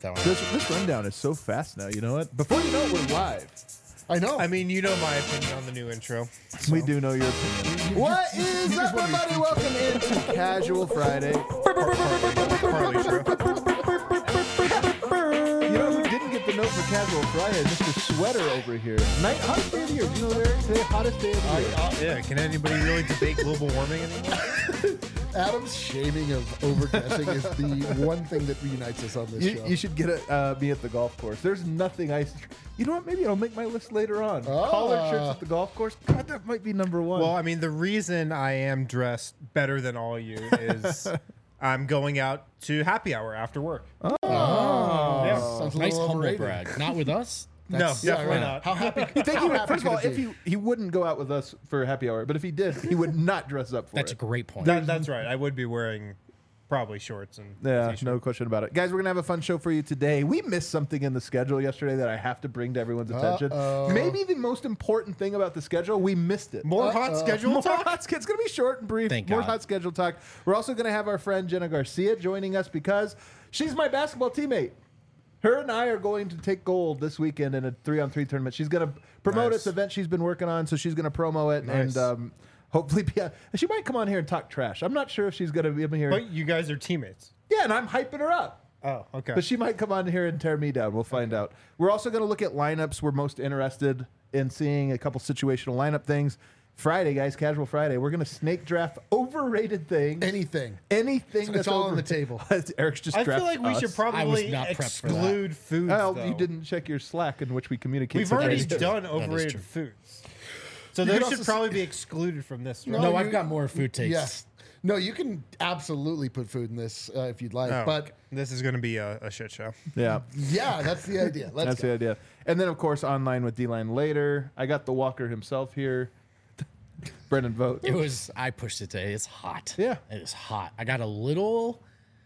that one. This rundown is so fast now. You know what? Before you know it, we're live. I know. I mean, you know my opinion on the new intro. We do know your opinion. What is up, everybody? Welcome into Casual Friday. Partly true. You know who didn't get the note for Casual Friday? Mr. Sweater over here. Hottest day of the year. Do you know Eric? Today, hottest day of the year. Yeah, can anybody really debate global warming anymore? Adam's shaming of overdressing is the one thing that reunites us on this show. You should get me at the golf course. There's nothing You know what? Maybe I'll make my list later on. Collared shirts at the golf course. God, that might be number one. Well, I mean, the reason I am dressed better than all you is I'm going out to happy hour after work. Yeah. Sounds a Nice little humble overrated. brag. Not with us. No, definitely right. not. How happy? you think how he would, happy first of all, could if it be? he wouldn't go out with us for happy hour, but if he did, he would not dress up for That's a it. great point. That's right. I would be wearing probably shorts and Yeah, t-shirt. no question about it. Guys, we're going to have a fun show for you today. We missed something in the schedule yesterday that I have to bring to everyone's attention. Maybe the most important thing about the schedule, we missed it. More hot schedule More talk? hot schedule. It's going to be short and brief. Thank More God. hot schedule talk. We're also going to have our friend Jenna Garcia joining us because she's my basketball teammate. Her and I are going to take gold this weekend in a 3-on-3 tournament. She's going to promote Nice. this event she's been working on, so she's going to promo it Nice. and hopefully be. And she might come on here and talk trash. I'm not sure if she's going to be here. But you guys are teammates. Yeah, and I'm hyping her up. Oh, okay. But she might come on here and tear me down. We'll find out. We're also going to look at lineups. We're most interested in seeing a couple situational lineup things. Friday, guys, Casual Friday. We're going to snake draft overrated things. Anything. Anything that's It's all on over- the table. Eric's just I feel drafted like we us. should probably not prepped for that. exclude foods, Well, though. you didn't check your Slack in which we communicate. We've such already ideas. done true. overrated foods. So You those could should also probably be excluded from this. Right? No, you- I've got more food takes. Yes. No, you can absolutely put food in this if you'd like. Oh, but okay. This is going to be a shit show. Yeah. yeah, that's the idea. Let's That's go. the idea. And then, of course, online with D-Line later. I got the Walker himself here. Brendan Vogt. I pushed it today. It's hot. Yeah. It is hot. I got a little,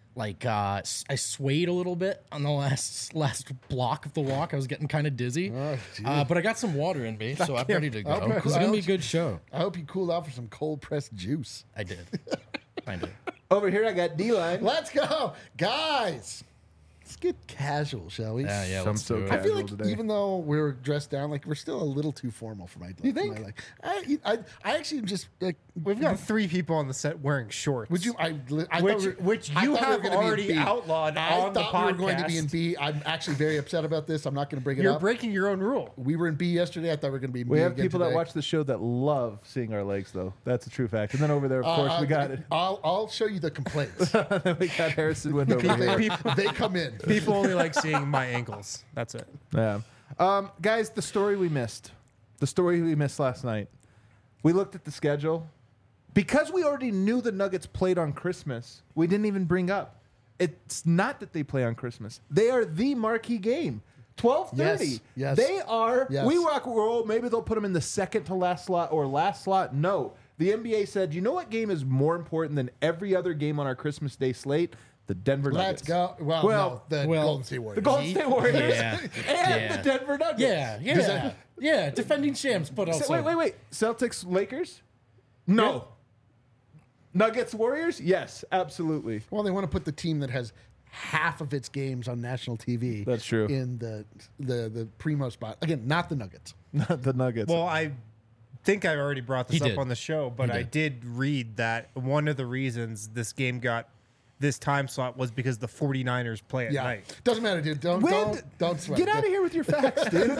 I swayed a little bit on the last block of the walk. I was getting kind of dizzy. gee. But I got some water in me, so I'm ready to go. Okay. It's going to be a good show. I hope you cooled out for some cold pressed juice. I did. I did. Over here, I got D-Line. Let's go, guys. Let's get casual, shall we? Yeah, Some let's so do it. I feel like Casual today. even though we're dressed down, like we're still a little too formal for my. You think? For my, like, I actually just like. We've got 3 people on the set wearing shorts. Would you? I thought Which I you thought we were have gonna be in already B. outlawed I on the thought we were going to be in podcast. B. I'm actually very upset about this. I'm not going to bring it You're up. breaking your own rule. We were in B yesterday. I thought we were going to be in B. We have again people that today. watch the show that love seeing our legs, though. That's a true fact. And then over there, of course, we got it. I'll show you the complaints. We got Harrison Wind over here. they come in. People only like seeing my ankles. That's it. Yeah. Guys, the story we missed. The story we missed last night. We looked at the schedule. Because we already knew the Nuggets played on Christmas, we didn't even bring up. It's not that they play on Christmas. They are the marquee game. 12:30. Yes. They are. Yes. We rock roll. Maybe they'll put them in the second to last slot or last slot. No. The NBA said, you know what game is more important than every other game on our Christmas Day slate? The Denver Let's Nuggets. go. Well, Well, no, the Golden State Warriors. The Golden State Warriors Yeah. and Yeah. the Denver Nuggets. Yeah. Defending champs, but also. Wait. Celtics, Lakers? No. Nuggets, Warriors? Yes, absolutely. Well, they want to put the team that has half of its games on national TV. That's true. In the primo spot again, not the Nuggets. Not the Nuggets. Well, I think I already brought this He up did. on the show, but He I did read that one of the reasons this game got this time slot was because the 49ers play at Yeah, night. doesn't matter, dude. Don't sweat. Get out of here with your facts, dude.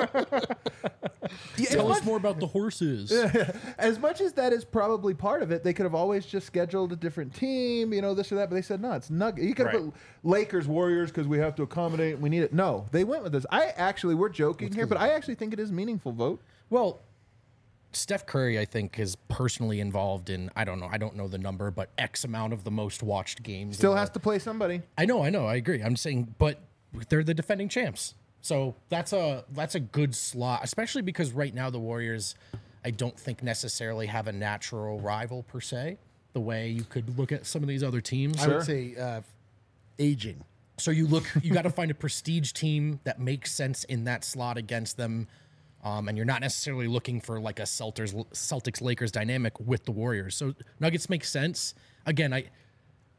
Tell us more about the horses. As much as that is probably part of it, they could have always just scheduled a different team, this or that. But they said, no, it's Nuggets. You could have Right. put Lakers, Warriors because we have to accommodate. We need it. No, they went with this. We're joking here, but I actually think it is meaningful vote. Well, Steph Curry, I think, is personally involved in, I don't know the number, but X amount of the most watched games. Still has to play somebody. I know, I agree. I'm saying, but they're the defending champs. So that's a good slot, especially because right now the Warriors, I don't think necessarily have a natural rival per se, the way you could look at some of these other teams. I would say aging. So you got to find a prestige team that makes sense in that slot against them. And you're not necessarily looking for like a Celtics Lakers dynamic with the Warriors. So Nuggets make sense. Again,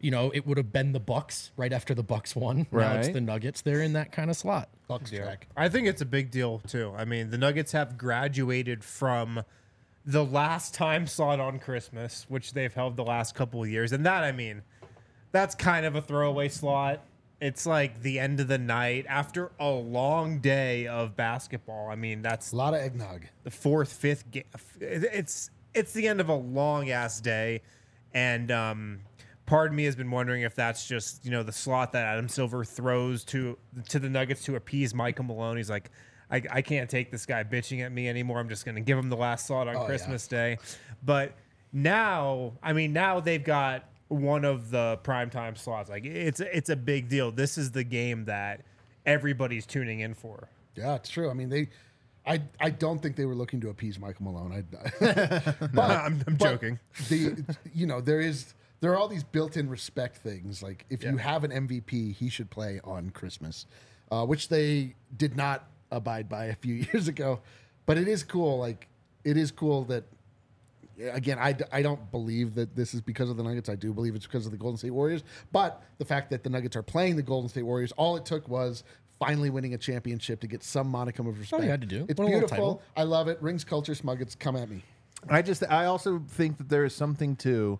it would have been the Bucks right after the Bucks won. Now it's Right. the Nuggets. They're in that kind of slot. Bucks track. I think it's a big deal too. I mean, the Nuggets have graduated from the last time slot on Christmas, which they've held the last couple of years, and that, I mean, that's kind of a throwaway slot. It's like the end of the night after a long day of basketball. I mean, that's A lot of eggnog. the fourth, fifth game. It's the end of a long ass day, and part of me has been wondering if that's just the slot that Adam Silver throws to the Nuggets to appease Michael Malone. He's like, I can't take this guy bitching at me anymore. I'm just going to give him the last slot on Christmas Day. But now they've got one of the primetime slots. Like it's a big deal. This is the game that everybody's tuning in for. Yeah, it's true. I mean, I don't think they were looking to appease Michael Malone. I'm joking. There are all these built-in respect things. Like if you have an MVP, he should play on Christmas, which they did not abide by a few years ago. But it is cool. Like it is cool that. Again, I don't believe that this is because of the Nuggets. I do believe it's because of the Golden State Warriors. But the fact that the Nuggets are playing the Golden State Warriors, all it took was finally winning a championship to get some modicum of respect. you had to do. It's Win a little beautiful. title. I love it. Rings culture, Smuggets, come at me. I also think that there is something to.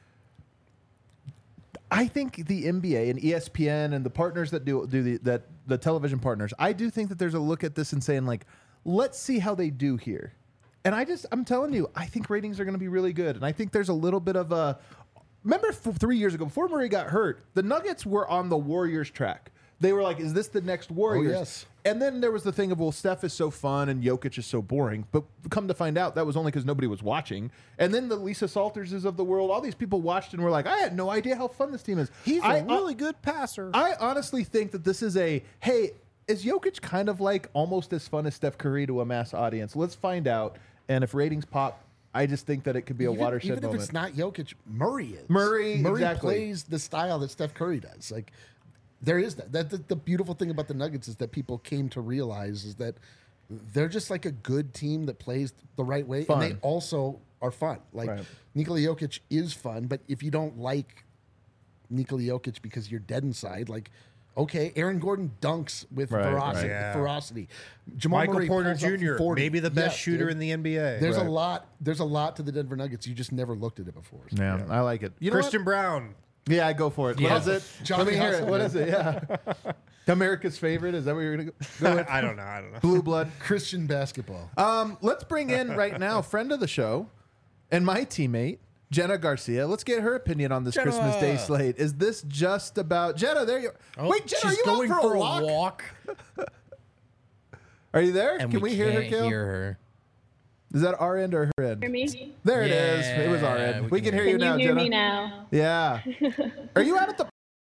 I think the NBA and ESPN and the partners that do the television partners. I do think that there's a look at this and saying like, let's see how they do here. And I'm telling you, I think ratings are going to be really good. And I think there's a little bit of a. Remember 3 years ago, before Murray got hurt, the Nuggets were on the Warriors track. They were like, is this the next Warriors? Oh, yes. And then there was the thing of, well, Steph is so fun and Jokic is so boring. But come to find out, that was only because nobody was watching. And then the Lisa Salterses of the world, all these people watched and were like, I had no idea how fun this team is. He's a really good passer. I honestly think that this is hey, is Jokic kind of like almost as fun as Steph Curry to a mass audience? Let's find out. And if ratings pop, I just think that it could be a watershed even moment. if it's not Jokic, Murray is. Murray exactly. plays the style that Steph Curry does. Like there is that. The beautiful thing about the Nuggets is that people came to realize is that they're just like a good team that plays the right way, Fun. and they also are fun. Like Right. Nikola Jokic is fun, but if you don't like Nikola Jokic because you're dead inside, like. Okay, Aaron Gordon dunks with Right, ferocity. right. Yeah. Ferocity. Jamal Michael Murray Porter pulls up from Jr., 40. maybe the best Yeah, shooter dude. in the NBA. There's Right. a lot. There's a lot to the Denver Nuggets. You just never looked at it before. So. Yeah, I like it. You know Christian Brown. what? Yeah, I go for it. Yeah. What is it? Johnny Let me hear it. Hustle, What man. is it? Yeah. America's favorite. Is that what you're going to go with? I don't know. Blue blood. Christian basketball. Let's bring in right now, friend of the show and my teammate, Jenna Garcia. Let's get her opinion on this Jenna. Christmas Day slate. Is this just about Jenna? There you are. Oh, Wait, Jenna, are she's you going out for a walk? walk? Are you there? And Can we hear her, can't Kale? hear her. Is that our end or her end? Hear me? There it Yeah, is. It was our end. we We can can hear hear you Can now, you hear Jenna. me now? Yeah. Are you out at the?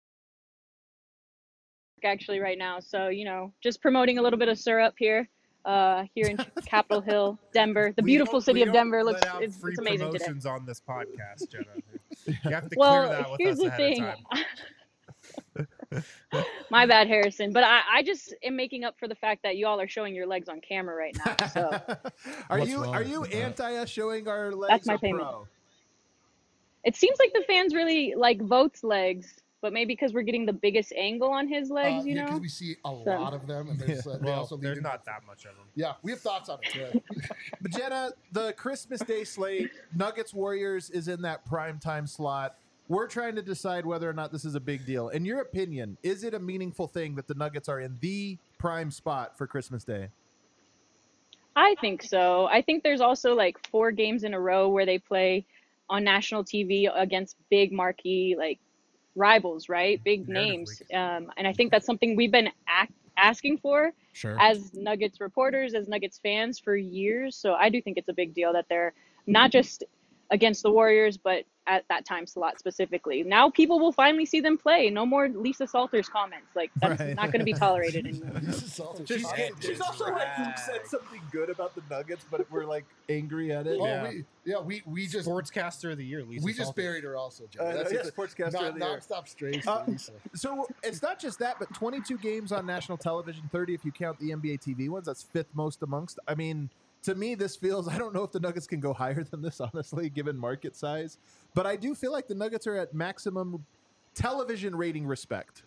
Actually, right now. So, just promoting a little bit of syrup here in Capitol Hill, Denver. The beautiful city of Denver looks it's amazing today. promotions on this podcast, Jenna. You have to Well, clear that with here's us the ahead thing. of time. My bad, Harrison. But I just am making up for the fact that you all are showing your legs on camera right now. So Are What's you wrong are you with that? anti us showing our legs? my or payment. pro? it seems like the fans really like Vogt's legs, but maybe because we're getting the biggest angle on his legs, you because know? we see a So- lot of them, and there's, they Well, also lead there's into- not that much of them. Yeah, we have thoughts on it. But Jenna, the Christmas Day slate, Nuggets Warriors is in that prime time slot. We're trying to decide whether or not this is a big deal. In your opinion, is it a meaningful thing that the Nuggets are in the prime spot for Christmas Day? I think so. I think there's also like 4 games in a row where they play on national TV against big marquee like rivals, right? Big names. And I think that's something we've been asking for Sure. as Nuggets reporters, as Nuggets fans for years. So I do think it's a big deal that they're not just against the Warriors, but at that time slot specifically. Now people will finally see them play. No more Lisa Salters comments. Like that's Right. not going to be tolerated anymore. This is all- She's also like said something good about the Nuggets, but we're like angry at it. Oh, we just Sportscaster of the year, Lisa we just Salters. buried her also, Joe. Yeah, it. Sportscaster of the year. Nonstop strays Uh, for Lisa. So it's not just that, but 22 games on national television, 30 if you count the NBA TV ones. That's 5th most amongst. I mean, to me, this feels. I don't know if the Nuggets can go higher than this, honestly, given market size. But I do feel like the Nuggets are at maximum television rating respect?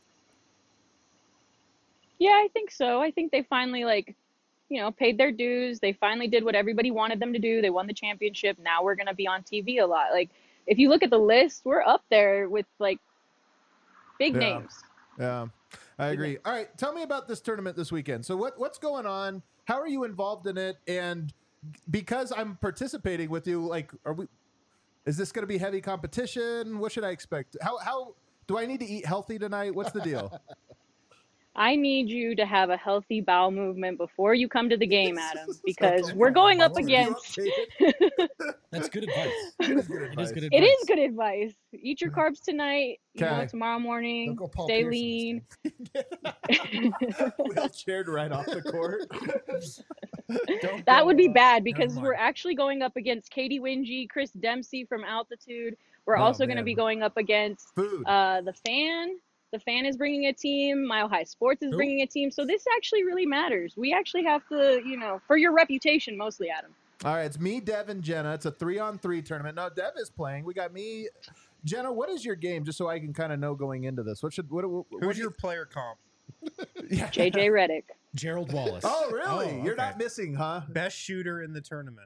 Yeah, I think so. I think they finally paid their dues. They finally did what everybody wanted them to do. They won the championship. Now we're going to be on TV a lot. Like, if you look at the list, we're up there with like big names. Yeah, I agree. All right, tell me about this tournament this weekend. So what's going on? How are you involved in it? And because I'm participating with you, like, is this going to be heavy competition? What should I expect? How do I need to eat healthy tonight? What's the deal? I need you to have a healthy bowel movement before you come to the game, Adam, because we're going up against. That's good advice. It is good advice. It is good advice. Eat your carbs tonight. Okay. Tomorrow morning. Don't go Paul Stay Pierce lean. Wheelchaired right off the court. That would be bad because we're actually going up against Katie Wingy, Chris Dempsey from Altitude. We're also going to be going up against Food. the Fan. The Fan is bringing a team. Mile High Sports is bringing a team. So this actually really matters. We actually have to, for your reputation mostly, Adam. All right, it's me, Dev, and Jenna. It's a 3-on-3 tournament. No, Dev is playing. We got me. Jenna, what is your game, just so I can kind of know going into this? Who's your player comp? JJ Redick. Gerald Wallace. Oh, really? Oh, You're okay. not missing, huh? Best shooter in the tournament.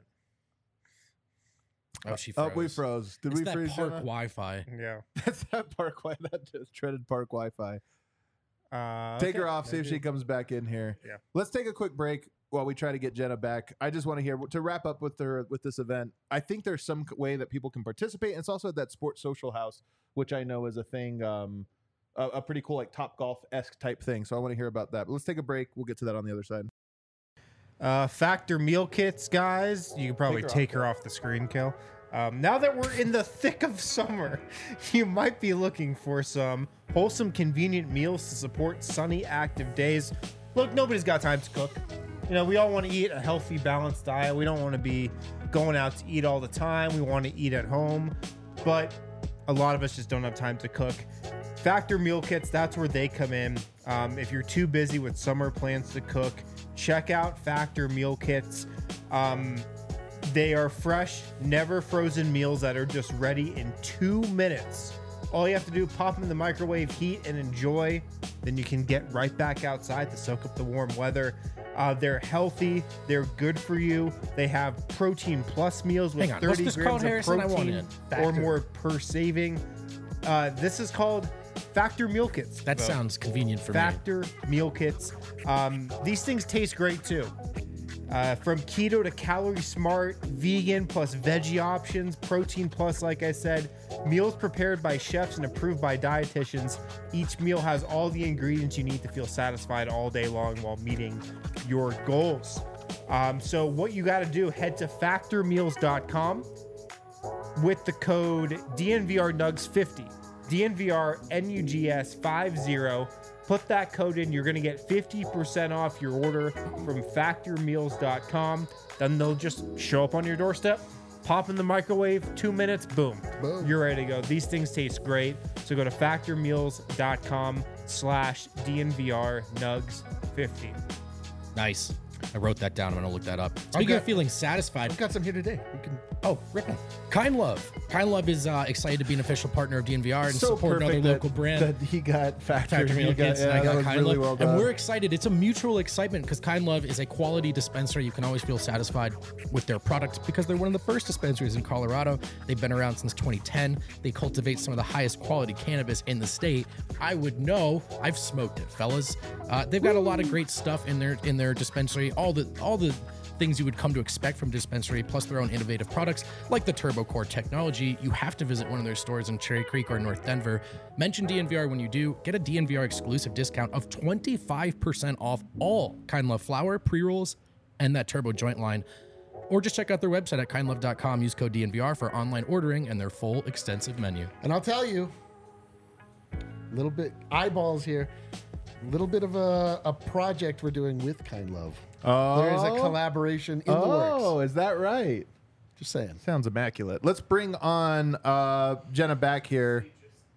Oh, she froze. Oh, we froze. Did It's we that freeze? park Jenna? Wi-Fi. Yeah. That's that park Wi-Fi. That just treaded park Wi-Fi. Take Okay. her off. See if she comes back in here. Yeah. Let's take a quick break while we try to get Jenna back. I just want to hear to wrap up with this event. I think there's some way that people can participate. And it's also that Sports Social House, which I know is a thing, a pretty cool like Top Golf-esque type thing. So I want to hear about that. But let's take a break. We'll get to that on the other side. Factor meal kits, guys. You can probably take her off the screen, Kel. Now that we're in the thick of summer, you might be looking for some wholesome, convenient meals to support sunny, active days. Look, nobody's got time to cook. We all want to eat a healthy, balanced diet. We don't want to be going out to eat all the time. We want to eat at home, but a lot of us just don't have time to cook. Factor meal kits, that's where they come in. If you're too busy with summer plans to cook, check out Factor meal kits. They are fresh, never frozen meals that are just ready in 2 minutes. All you have to do, pop them in the microwave, heat, and enjoy. Then you can get right back outside to soak up the warm weather. They're healthy. They're good for you. They have protein plus meals with Hang on, what's 30 this grams called, of Harrison? I want protein it. or more per saving. This is called Factor Meal Kits. That sounds convenient for me. Factor Meal Kits. These things taste great too. From keto to calorie smart, vegan plus veggie options, protein plus, like I said, meals prepared by chefs and approved by dietitians. Each meal has all the ingredients you need to feel satisfied all day long while meeting your goals. So what you got to do, head to factormeals.com with the code DNVRNUGS50. DNVRNUGS50. Put that code in. You're going to get 50% off your order from factormeals.com. Then they'll just show up on your doorstep, pop in the microwave, 2 minutes, boom. You're ready to go. These things taste great. So go to factormeals.com/DNVRNugs50. Nice. I wrote that down. I'm going to look that up. Speaking of feeling satisfied. I've got some here today. We can. Oh, ripping. Kind Love. Kind Love is excited to be an official partner of DNVR and So support another perfect local brand. that he got Factor Meal Kits, and I that got was Kind really Love. well And done. we're excited. It's a mutual excitement because Kind Love is a quality dispenser. You can always feel satisfied with their product because they're one of the first dispensaries in Colorado. They've been around since 2010. They cultivate some of the highest quality cannabis in the state. I would know. I've smoked it, fellas. They've got a lot of great stuff in their dispensary. All the things you would come to expect from dispensary, plus their own innovative products like the Turbo Core technology. You have to visit one of their stores in Cherry Creek or North Denver. Mention DNVR when you do. Get a DNVR exclusive discount of 25% off all Kind Love flower, pre-rolls, and that Turbo joint line. Or just check out their website at kindlove.com. Use code DNVR for online ordering and their full extensive menu. And I'll tell you, a little bit eyeballs here, a little bit of a project we're doing with Kind Love. There is a collaboration in the works. Oh, is that right? Just saying. Sounds immaculate. Let's bring on Jenna back here.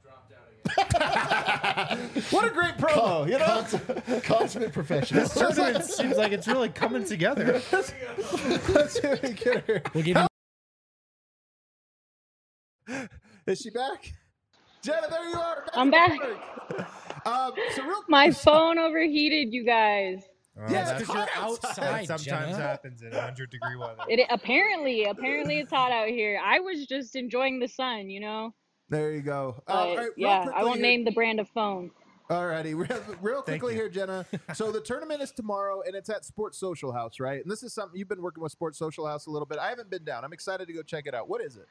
What a great promo, you know? Consummate professional. This tournament seems like it's really coming together. Let's get her. We'll give you Is she back? Jenna, there you are. I'm back. So real My phone overheated, you guys. Yeah, Because you're outside, That sometimes Jenna. happens in 100-degree weather. Apparently it's hot out here. I was just enjoying the sun, you know. There you go. But All right, real yeah, I quickly won't here- name the brand of phone. Alrighty, real quickly you. here, Jenna. So the tournament is tomorrow, and it's at Sports Social House, right? And this is something you've been working with Sports Social House a little bit. I haven't been down. I'm excited to go check it out. What is it?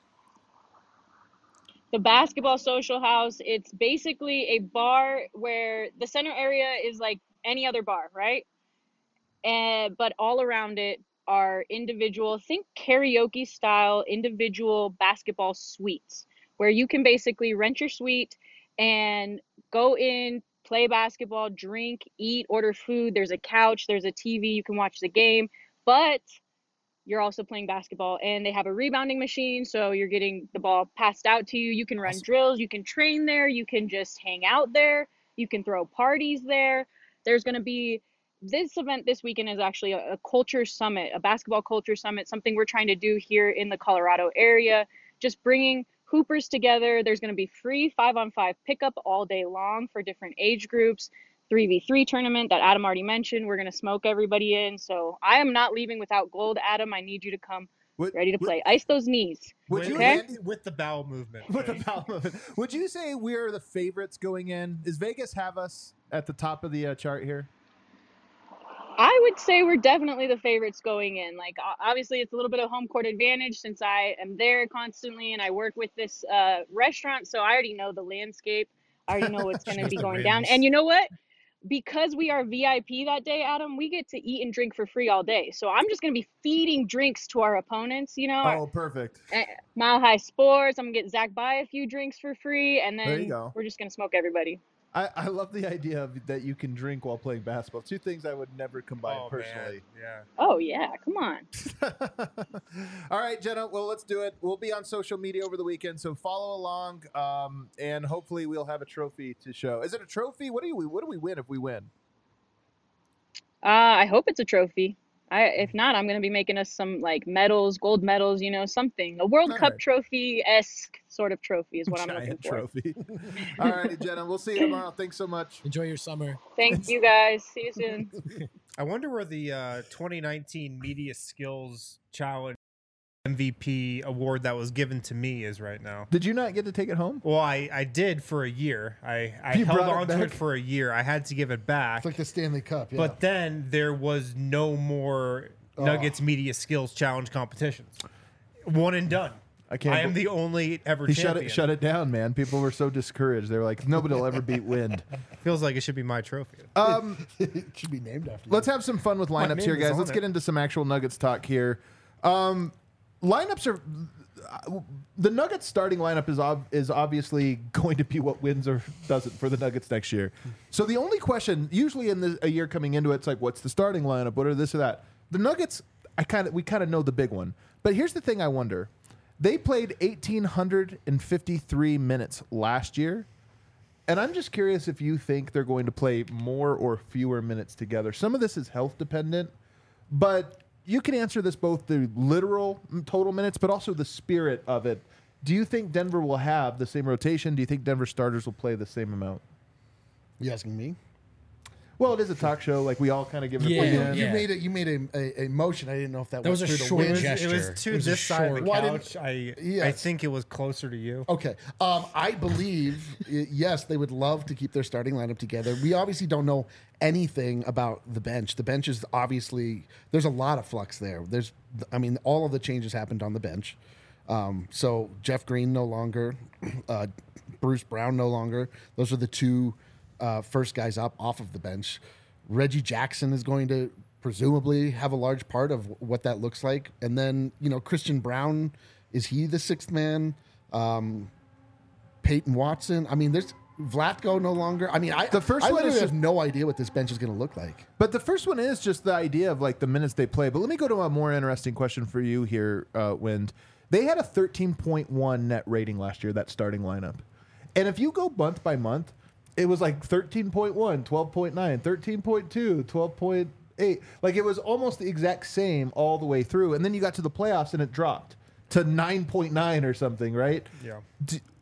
The Basketball Social House, it's basically a bar where the center area is like any other bar, right? But all around it are individual, think karaoke style individual basketball suites where you can basically rent your suite and go in, play basketball, drink, eat, order food. There's a couch, there's a TV, you can watch the game, but you're also playing basketball, and they have a rebounding machine, so you're getting the ball passed out to you. You can run drills, you can train there, you can just hang out there, you can throw parties there. There's going to be this event this weekend is actually a culture summit, a basketball culture summit, something we're trying to do here in the Colorado area, just bringing hoopers together. There's going to be free 5-on-5 pickup all day long for different age groups. 3v3 tournament that Adam already mentioned. We're going to smoke everybody in. So I am not leaving without gold. Adam, I need you to come ready to play. Ice those knees. Would you Okay? With the bowel movement. With the bowel movement. Would you say we're the favorites going in? Does Vegas have us at the top of the chart here? I would say we're definitely the favorites going in. Like, obviously, it's a little bit of home court advantage since I am there constantly and I work with this restaurant. So I already know the landscape. I already know what's going to be going down. And you know what? Because we are VIP that day, Adam, we get to eat and drink for free all day. So I'm just going to be feeding drinks to our opponents, you know. Oh, perfect. Mile High Sports, I'm going to get Zach buy a few drinks for free, and There you then go. we're just going to smoke everybody. I love the idea of that you can drink while playing basketball. Two things I would never combine personally. Man. Yeah. Oh, yeah, come on. All right, Jenna. Well, let's do it. We'll be on social media over the weekend, so follow along, and hopefully we'll have a trophy to show. Is it a trophy? What do we win if we win? I hope it's a trophy. If not, I'm going to be making us some like medals, gold medals, you know, something. A World All Cup right. trophy-esque sort of trophy is what I'm looking Giant for. trophy. All righty, Jenna. We'll see you tomorrow. Thanks so much. Enjoy your summer. Thank you, guys. See you soon. I wonder where the 2019 Media Skills Challenge MVP award that was given to me is right now. Did you not get to take it home? Well, I did for a year. I You held brought it on to back? it for a year. I had to give it back. It's like the Stanley Cup. Yeah. But then there was no more Nuggets Media Skills Challenge competitions. One and done. I am the only ever He champion. shut it down, man. People were so discouraged. They were like, nobody will ever beat Wind. Feels like it should be my trophy. it should be named after. Let's have some fun with lineups name here, is guys. on Let's it. get into some actual Nuggets talk here. Lineups are the Nuggets starting lineup is obviously going to be what wins or doesn't for the Nuggets next year. So the only question, usually in a year coming into it, it's like, what's the starting lineup? What are this or that? The Nuggets, we kind of know the big one. But here's the thing I wonder. They played 1,853 minutes last year. And I'm just curious if you think they're going to play more or fewer minutes together. Some of this is health dependent, but you can answer this both the literal total minutes, but also the spirit of it. Do you think Denver will have the same rotation? Do you think Denver starters will play the same amount? You asking me? Well, it is a talk show. Like, we all kind of give it Yeah. a You, opinion. you made a motion. I didn't know if that was went a through short the wind. gesture. It was to It was a this side of the short- Why didn't- couch. I Yes. think it was closer to you. Okay. I believe, yes, they would love to keep their starting lineup together. We obviously don't know anything about the bench. The bench is obviously, there's a lot of flux there. All of the changes happened on the bench. So Jeff Green no longer, Bruce Brown no longer. Those are the two first guys up off of the bench. Reggie Jackson is going to presumably have a large part of what that looks like. And then, Christian Brown, is he the sixth man? Peyton Watson. There's Vlatko no longer. The first I one literally is have no idea what this bench is going to look like. But the first one is just the idea of like the minutes they play. But let me go to a more interesting question for you here, Wind. They had a 13.1 net rating last year, that starting lineup. And if you go month by month, it was like 13.1, 12.9, 13.2, 12.8. Like, it was almost the exact same all the way through. And then you got to the playoffs and it dropped to 9.9 or something, right? Yeah.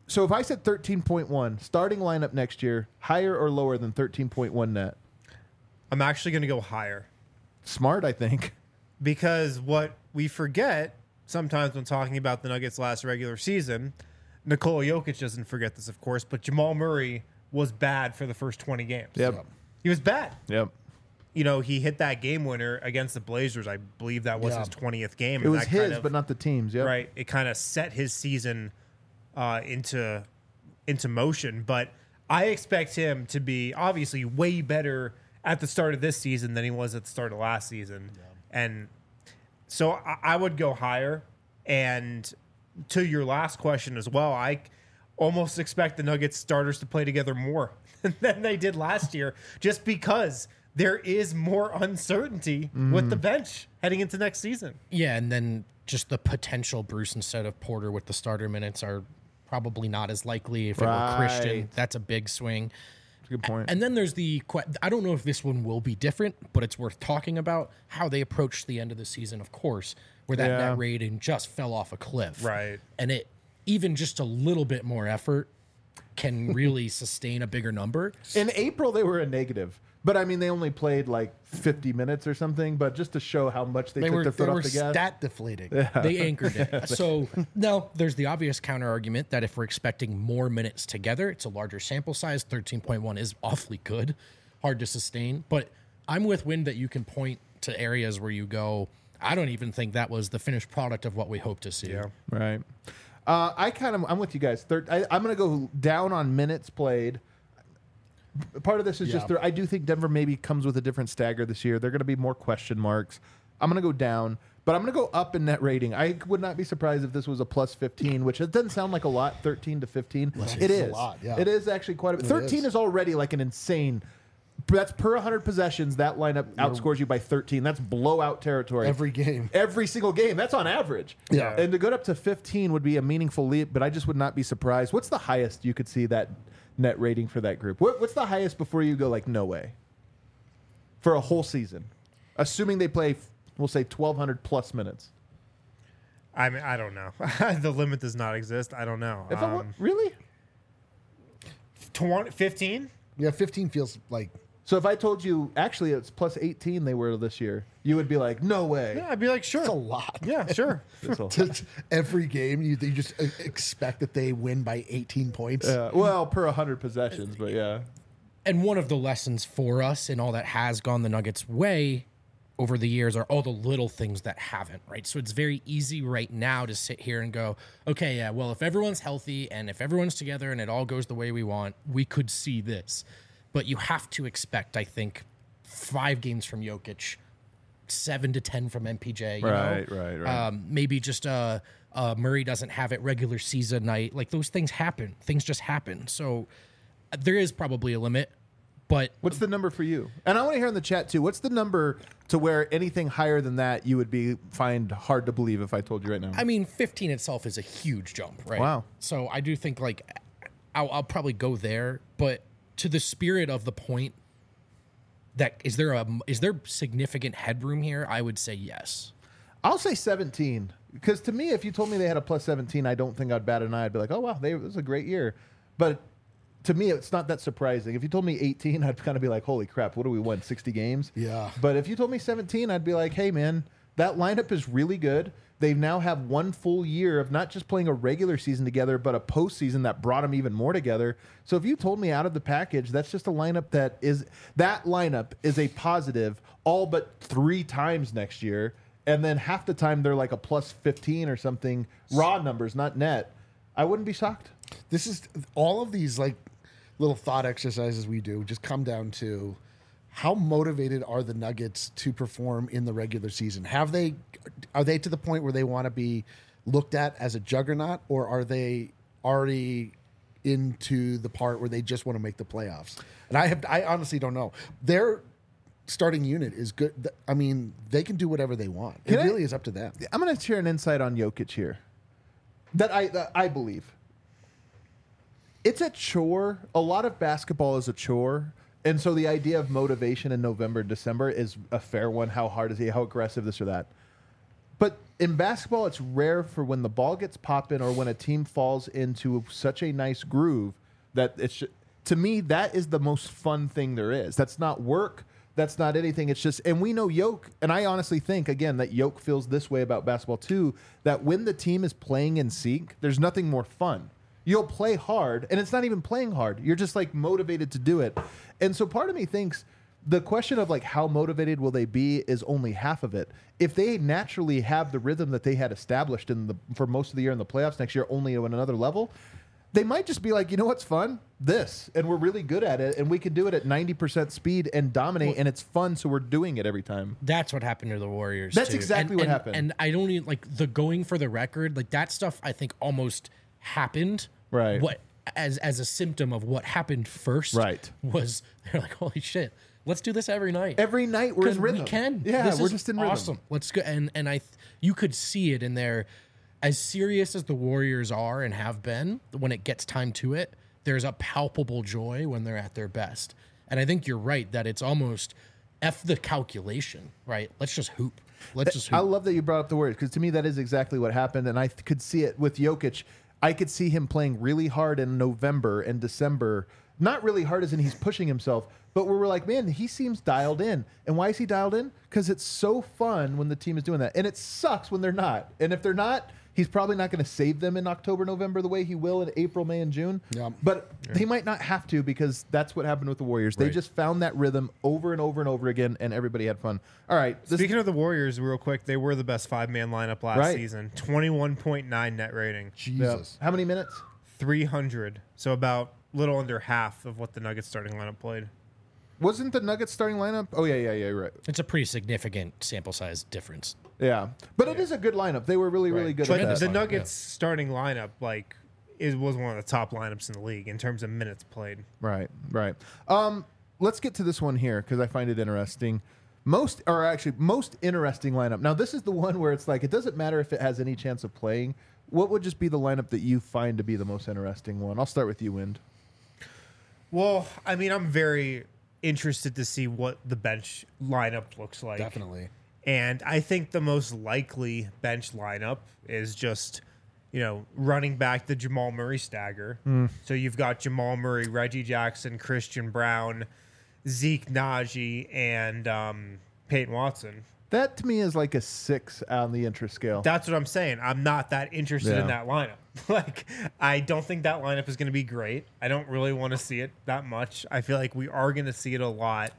So if I said 13.1 starting lineup next year, higher or lower than 13.1 net? I'm actually going to go higher. Smart, I think. Because what we forget sometimes when talking about the Nuggets' last regular season, Nikola Jokic doesn't forget this, of course, but Jamal Murray was bad for the first 20 games. Yep. He was bad. Yep. You know, he hit that game winner against the Blazers. I believe that was his 20th game. It was that kind his, of, but not the team's. Yep. right. It kind of set his season into motion. But I expect him to be obviously way better at the start of this season than he was at the start of last season. Yeah. And so I would go higher. And to your last question as well, I almost expect the Nuggets starters to play together more than they did last year, just because there is more uncertainty with the bench heading into next season. Yeah, and then just the potential Bruce instead of Porter with the starter minutes are probably not as likely. If it were Christian, that's a big swing. That's a good point. And then there's I don't know if this one will be different, but it's worth talking about how they approached the end of the season, of course, where that net rating just fell off a cliff. Right. And it, even just a little bit more effort can really sustain a bigger number. In April, they were a negative. But, I mean, they only played like 50 minutes or something. But just to show how much they took their foot off the gas. Stat deflating. They anchored it. So now there's the obvious counter argument that if we're expecting more minutes together, it's a larger sample size. 13.1 is awfully good, hard to sustain. But I'm with Win that you can point to areas where you go, I don't even think that was the finished product of what we hope to see. Yeah. Right. I'm with you guys. I'm going to go down on minutes played. Part of this is just I do think Denver maybe comes with a different stagger this year. They're going to be more question marks. I'm going to go down, but I'm going to go up in net rating. I would not be surprised if this was a plus 15, which it doesn't sound like a lot, 13 to 15. It is. A lot, yeah. It is actually quite a bit. 13 is already like an insane. That's per 100 possessions. That lineup outscores you by 13. That's blowout territory. Every game. Every single game. That's on average. Yeah. And to go up to 15 would be a meaningful leap, but I just would not be surprised. What's the highest you could see that net rating for that group? What's the highest before you go like, no way? For a whole season. Assuming they play, we'll say 1,200 plus minutes. I mean, I don't know. The limit does not exist. I don't know. Really? 15? Yeah, 15 feels like... So if I told you, actually, it's plus 18 they were this year, you would be like, no way. Yeah, I'd be like, sure. It's a lot. Yeah, sure. Every game, you just expect that they win by 18 points. Well, per 100 possessions, but yeah. And one of the lessons for us and all that has gone the Nuggets' way over the years are all the little things that haven't, right? So it's very easy right now to sit here and go, okay, yeah, well, if everyone's healthy and if everyone's together and it all goes the way we want, we could see this. But you have to expect, I think, 5 games from Jokic, 7 to 10 from MPJ. Right. Maybe just Murray doesn't have it regular season night. Like, those things happen. Things just happen. So there is probably a limit. But what's the number for you? And I want to hear in the chat, too. What's the number to where anything higher than that you would find hard to believe if I told you right now? I mean, 15 itself is a huge jump, right? Wow. So I do think, like, I'll probably go there. But to the spirit of the point, that is there significant headroom here? I would say yes. I'll say 17. Because to me, if you told me they had a plus 17, I don't think I'd bat an eye. I'd be like, oh, wow, this was a great year. But to me, it's not that surprising. If you told me 18, I'd kind of be like, holy crap, what do we win, 60 games? Yeah. But if you told me 17, I'd be like, hey, man, that lineup is really good. They now have one full year of not just playing a regular season together, but a postseason that brought them even more together. So if you told me out of the package, that's just a lineup that is a positive all but 3 times next year. And then half the time they're like a plus 15 or something, raw numbers, not net. I wouldn't be shocked. This is all of these like little thought exercises we do just come down to how motivated are the Nuggets to perform in the regular season? Are they to the point where they want to be looked at as a juggernaut, or are they already into the part where they just want to make the playoffs? And I honestly don't know. Their starting unit is good. I mean, they can do whatever they want. It really is up to them. I'm going to share an insight on Jokic here that I believe. It's a chore. A lot of basketball is a chore. And so the idea of motivation in November, December is a fair one. How hard is he? How aggressive, this or that? But in basketball, it's rare for when the ball gets popping or when a team falls into such a nice groove that it's, to me, that is the most fun thing there is. That's not work. That's not anything. It's just, and we know Yoke, and I honestly think, again, that Yoke feels this way about basketball too, that when the team is playing in sync, there's nothing more fun. You'll play hard, and it's not even playing hard. You're just like motivated to do it. And so part of me thinks the question of like how motivated will they be is only half of it. If they naturally have the rhythm that they had established for most of the year in the playoffs next year, only on another level, they might just be like, you know what's fun? This. And we're really good at it, and we can do it at 90% speed and dominate, and it's fun, so we're doing it every time. That's what happened to the Warriors. That's too. exactly what happened. And I don't even like the going for the record. Like that stuff, I think almost happened. Right. What as a symptom of what happened first. Right. Was they're like, holy shit, let's do this every night. Every night we're in rhythm. We can. Yeah, This we're is just in rhythm. awesome. Let's go. And you could see it in there. As serious as the Warriors are and have been, when it gets time to it, there's a palpable joy when they're at their best. And I think you're right that it's almost F the calculation, right? Let's just hoop. Let's just hoop. I love that you brought up the Warriors because to me that is exactly what happened, and I could see it with Jokic. I could see him playing really hard in November and December. Not really hard as in he's pushing himself, but we were like, man, he seems dialed in. And why is he dialed in? Because it's so fun when the team is doing that. And it sucks when they're not. And if they're not, he's probably not going to save them in October, November the way he will in April, May, and June. Yeah. But he might not have to because that's what happened with the Warriors. They just found that rhythm over and over and over again, and everybody had fun. All right. Speaking of the Warriors, real quick, they were the best 5-man lineup last season. 21.9 net rating. Jesus. How many minutes? 300. So about a little under half of what the Nuggets starting lineup played. Wasn't the Nuggets starting lineup? Oh, yeah, you're right. It's a pretty significant sample size difference. Yeah. But it is a good lineup. They were really, really good But at that. the Nuggets starting lineup, like, was one of the top lineups in the league in terms of minutes played. Right. Let's get to this one here because I find it interesting. Most interesting lineup. Now, this is the one where it's like, it doesn't matter if it has any chance of playing. What would just be the lineup that you find to be the most interesting one? I'll start with you, Wind. Well, I mean, I'm very interested to see what the bench lineup looks like. Definitely. And I think the most likely bench lineup is just, running back the Jamal Murray stagger. So you've got Jamal Murray, Reggie Jackson, Christian Brown, Zeke Naji, and Peyton Watson. That to me is like a 6 on the interest scale. That's what I'm saying. I'm not that interested in that lineup. Like, I don't think that lineup is going to be great. I don't really want to see it that much. I feel like we are going to see it a lot.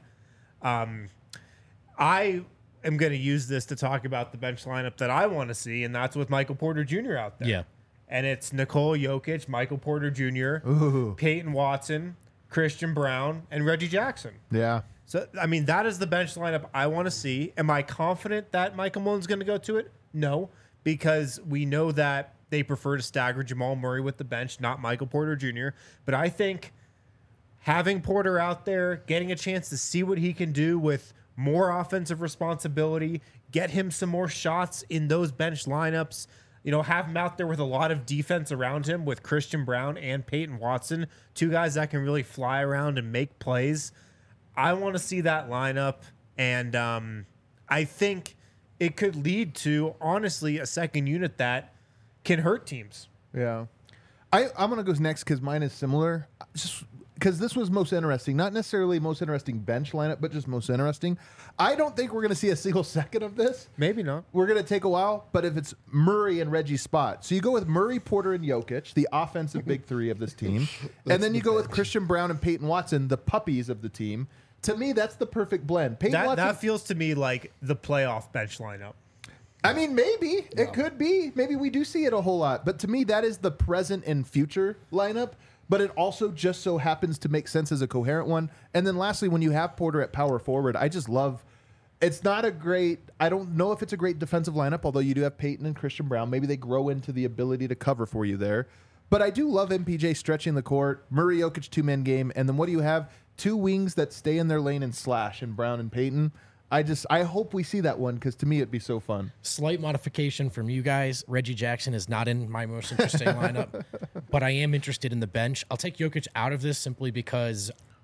I am going to use this to talk about the bench lineup that I want to see, and that's with Michael Porter Jr. out there. Yeah. And it's Nikola Jokic, Michael Porter Jr., Peyton Watson, Christian Brown, and Reggie Jackson. Yeah. So, I mean, that is the bench lineup I want to see. Am I confident that Michael Malone's going to go to it? No, because we know that they prefer to stagger Jamal Murray with the bench, not Michael Porter Jr. But I think having Porter out there, getting a chance to see what he can do with more offensive responsibility, get him some more shots in those bench lineups, have him out there with a lot of defense around him with Christian Brown and Peyton Watson, two guys that can really fly around and make plays. I want to see that lineup, and I think it could lead to, honestly, a second unit that can hurt teams. Yeah. I'm going to go next because mine is similar. Just because this was most interesting. Not necessarily most interesting bench lineup, but just most interesting. I don't think we're going to see a single second of this. Maybe not. We're going to take a while, but if it's Murray and Reggie's spot. So you go with Murray, Porter, and Jokic, the offensive big three of this team. And then you go with Christian Brown and Peyton Watson, the puppies of the team. To me, that's the perfect blend. Peyton Watson, that feels to me like the playoff bench lineup. I mean, maybe. It could be. Maybe we do see it a whole lot. But to me, that is the present and future lineup. But it also just so happens to make sense as a coherent one. And then lastly, when you have Porter at power forward, I just love... It's not a great... I don't know if it's a great defensive lineup, although you do have Peyton and Christian Brown. Maybe they grow into the ability to cover for you there. But I do love MPJ stretching the court, Murray, Jokic, two-man game. And then what do you have? Two wings that stay in their lane and slash in Brown and Peyton. I hope we see that one because to me it'd be so fun. Slight modification from you guys. Reggie Jackson is not in my most interesting lineup, but I am interested in the bench. I'll take Jokic out of this simply because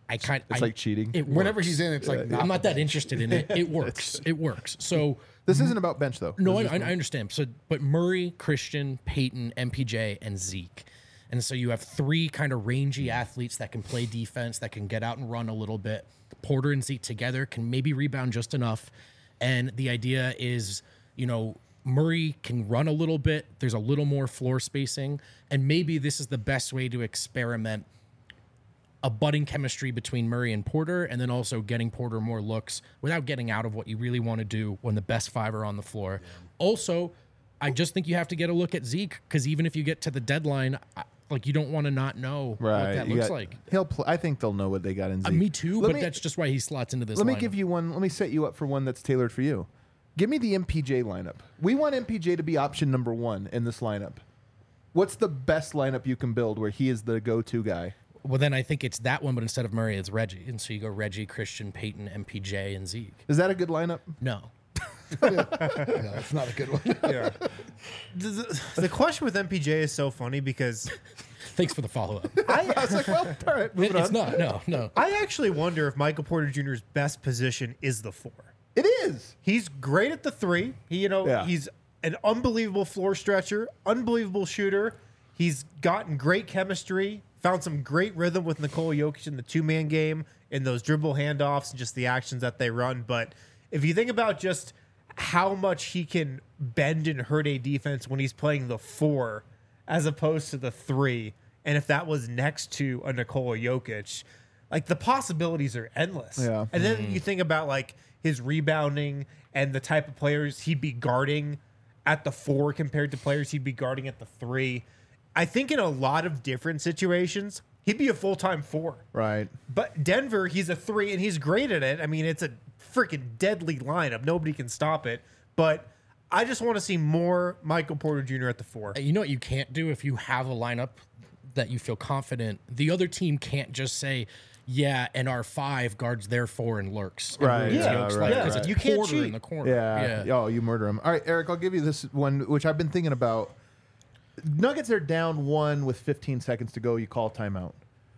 It's like cheating. It Whenever works. he's in, it's like I'm not that interested in it. It works. It works. So This isn't about bench though. no, This is I understand. So, but Murray, Christian, Peyton, MPJ, and Zeke. And so you have three kind of rangy athletes that can play defense, that can get out and run a little bit. Porter and Zeke together can maybe rebound just enough. And the idea is, Murray can run a little bit. There's a little more floor spacing. And maybe this is the best way to experiment a budding chemistry between Murray and Porter, and then also getting Porter more looks without getting out of what you really want to do when the best five are on the floor. Yeah. Also, I just think you have to get a look at Zeke, because even if you get to the deadline, you don't want to not know what that looks like. I think they'll know what they got in Zeke. Me too, that's just why he slots into this. Let me lineup. give you one. Let me set you up for one that's tailored for you. Give me the MPJ lineup. We want MPJ to be option number 1 in this lineup. What's the best lineup you can build where he is the go-to guy? Well, then I think it's that one, but instead of Murray, it's Reggie. And so you go Reggie, Christian, Peyton, MPJ, and Zeke. Is that a good lineup? No. Yeah, it's not a good one. Yeah. The question with MPJ is so funny because Thanks for the follow-up. I was like, well, all right, moving It's on. not. No. I actually wonder if Michael Porter Jr.'s best position is the 4. It is. He's great at the 3. He's an unbelievable floor stretcher, unbelievable shooter. He's gotten great chemistry, found some great rhythm with Nikola Jokic in the 2-man game, in those dribble handoffs and just the actions that they run. But if you think about just how much he can bend and hurt a defense when he's playing the 4 as opposed to the 3, and if that was next to a Nikola Jokic, the possibilities are endless. Yeah. And then you think about his rebounding and the type of players he'd be guarding at the 4 compared to players he'd be guarding at the 3. I think in a lot of different situations, he'd be a full-time 4. Right. But Denver, he's a 3, and he's great at it. I mean, it's a freaking deadly lineup. Nobody can stop it. But I just want to see more Michael Porter Jr. at the 4. You know what you can't do if you have a lineup that you feel confident? The other team can't just say, yeah, and our 5 guards their 4 and lurks. Right. Because it's You can't Porter cheat. in the corner. Yeah. Oh, you murder him. All right, Eric, I'll give you this one, which I've been thinking about. Nuggets are down 1 with 15 seconds to go. You call timeout.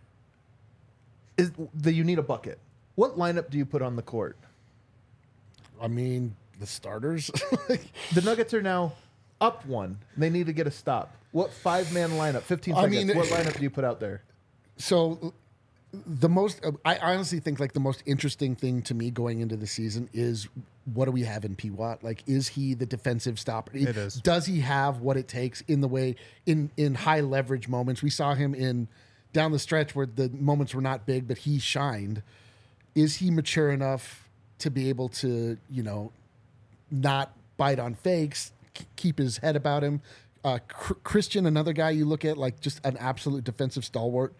You need a bucket. What lineup do you put on the court? I mean, the starters. The Nuggets are now up 1. They need to get a stop. What 5-man lineup? 15 seconds. What lineup do you put out there? So I honestly think the most interesting thing to me going into the season is, what do we have in P-Watt? Is he the defensive stopper? It is. Does he have what it takes in the way in high leverage moments? We saw him in down the stretch where the moments were not big, but he shined. Is he mature enough to be able to, not bite on fakes, keep his head about him? Christian, another guy you look at, just an absolute defensive stalwart.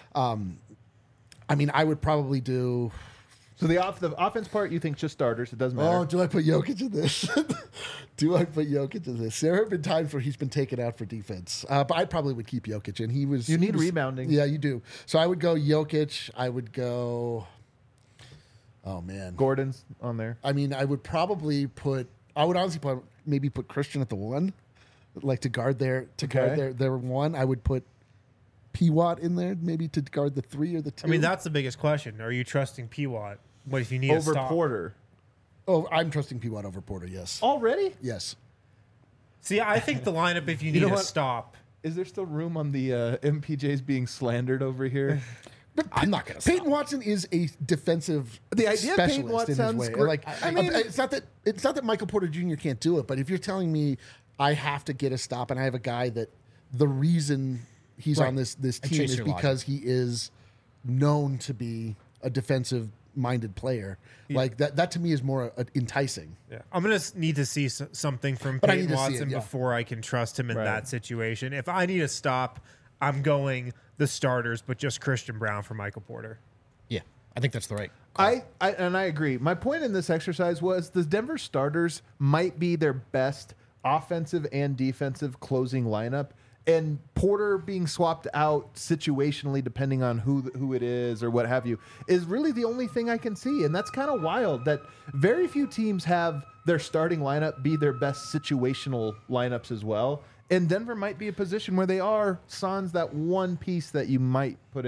I mean, I would probably do. So the offense part, you think just starters? It doesn't matter. Oh, do I put Jokic in this? Do I put Jokic in this? There have been times where he's been taken out for defense, but I probably would keep Jokic in. You need rebounding. Yeah, you do. So I would go Jokic. I would go. Oh man, Gordon's on there. I mean, I would probably put. I would honestly maybe put Christian at the 1, to guard their guard their 1. I would put P-Watt in there, maybe to guard the 3 or the 2. I mean, that's the biggest question. Are you trusting P-Watt? What if you need Over a stop? Porter. Oh, I'm trusting P-Watt over Porter, yes. Already? Yes. See, I think the lineup, if you need know a what? stop. Is there still room on the MPJs being slandered over here? I'm not going to Peyton Watson is a defensive The idea of Peyton specialist Watson in his sounds way. great. I mean- It's not that Michael Porter Jr. can't do it, but if you're telling me I have to get a stop and I have a guy that the reason he's Right. on this And team chase is your because he is known to be a defensive minded player. That to me is more enticing. Yeah. I'm going to need to see something from But I Peyton need to see Watson it, yeah. before I can trust him in Right. that situation. If I need a stop, I'm going the starters, but just Christian Brown for Michael Porter. Yeah, I think that's the right. I agree. My point in this exercise was the Denver starters might be their best offensive and defensive closing lineup, and Porter being swapped out situationally depending on who it is or what have you is really the only thing I can see. And that's kind of wild that very few teams have their starting lineup be their best situational lineups as well. And Denver might be a position where they are sans that one piece that you might put in.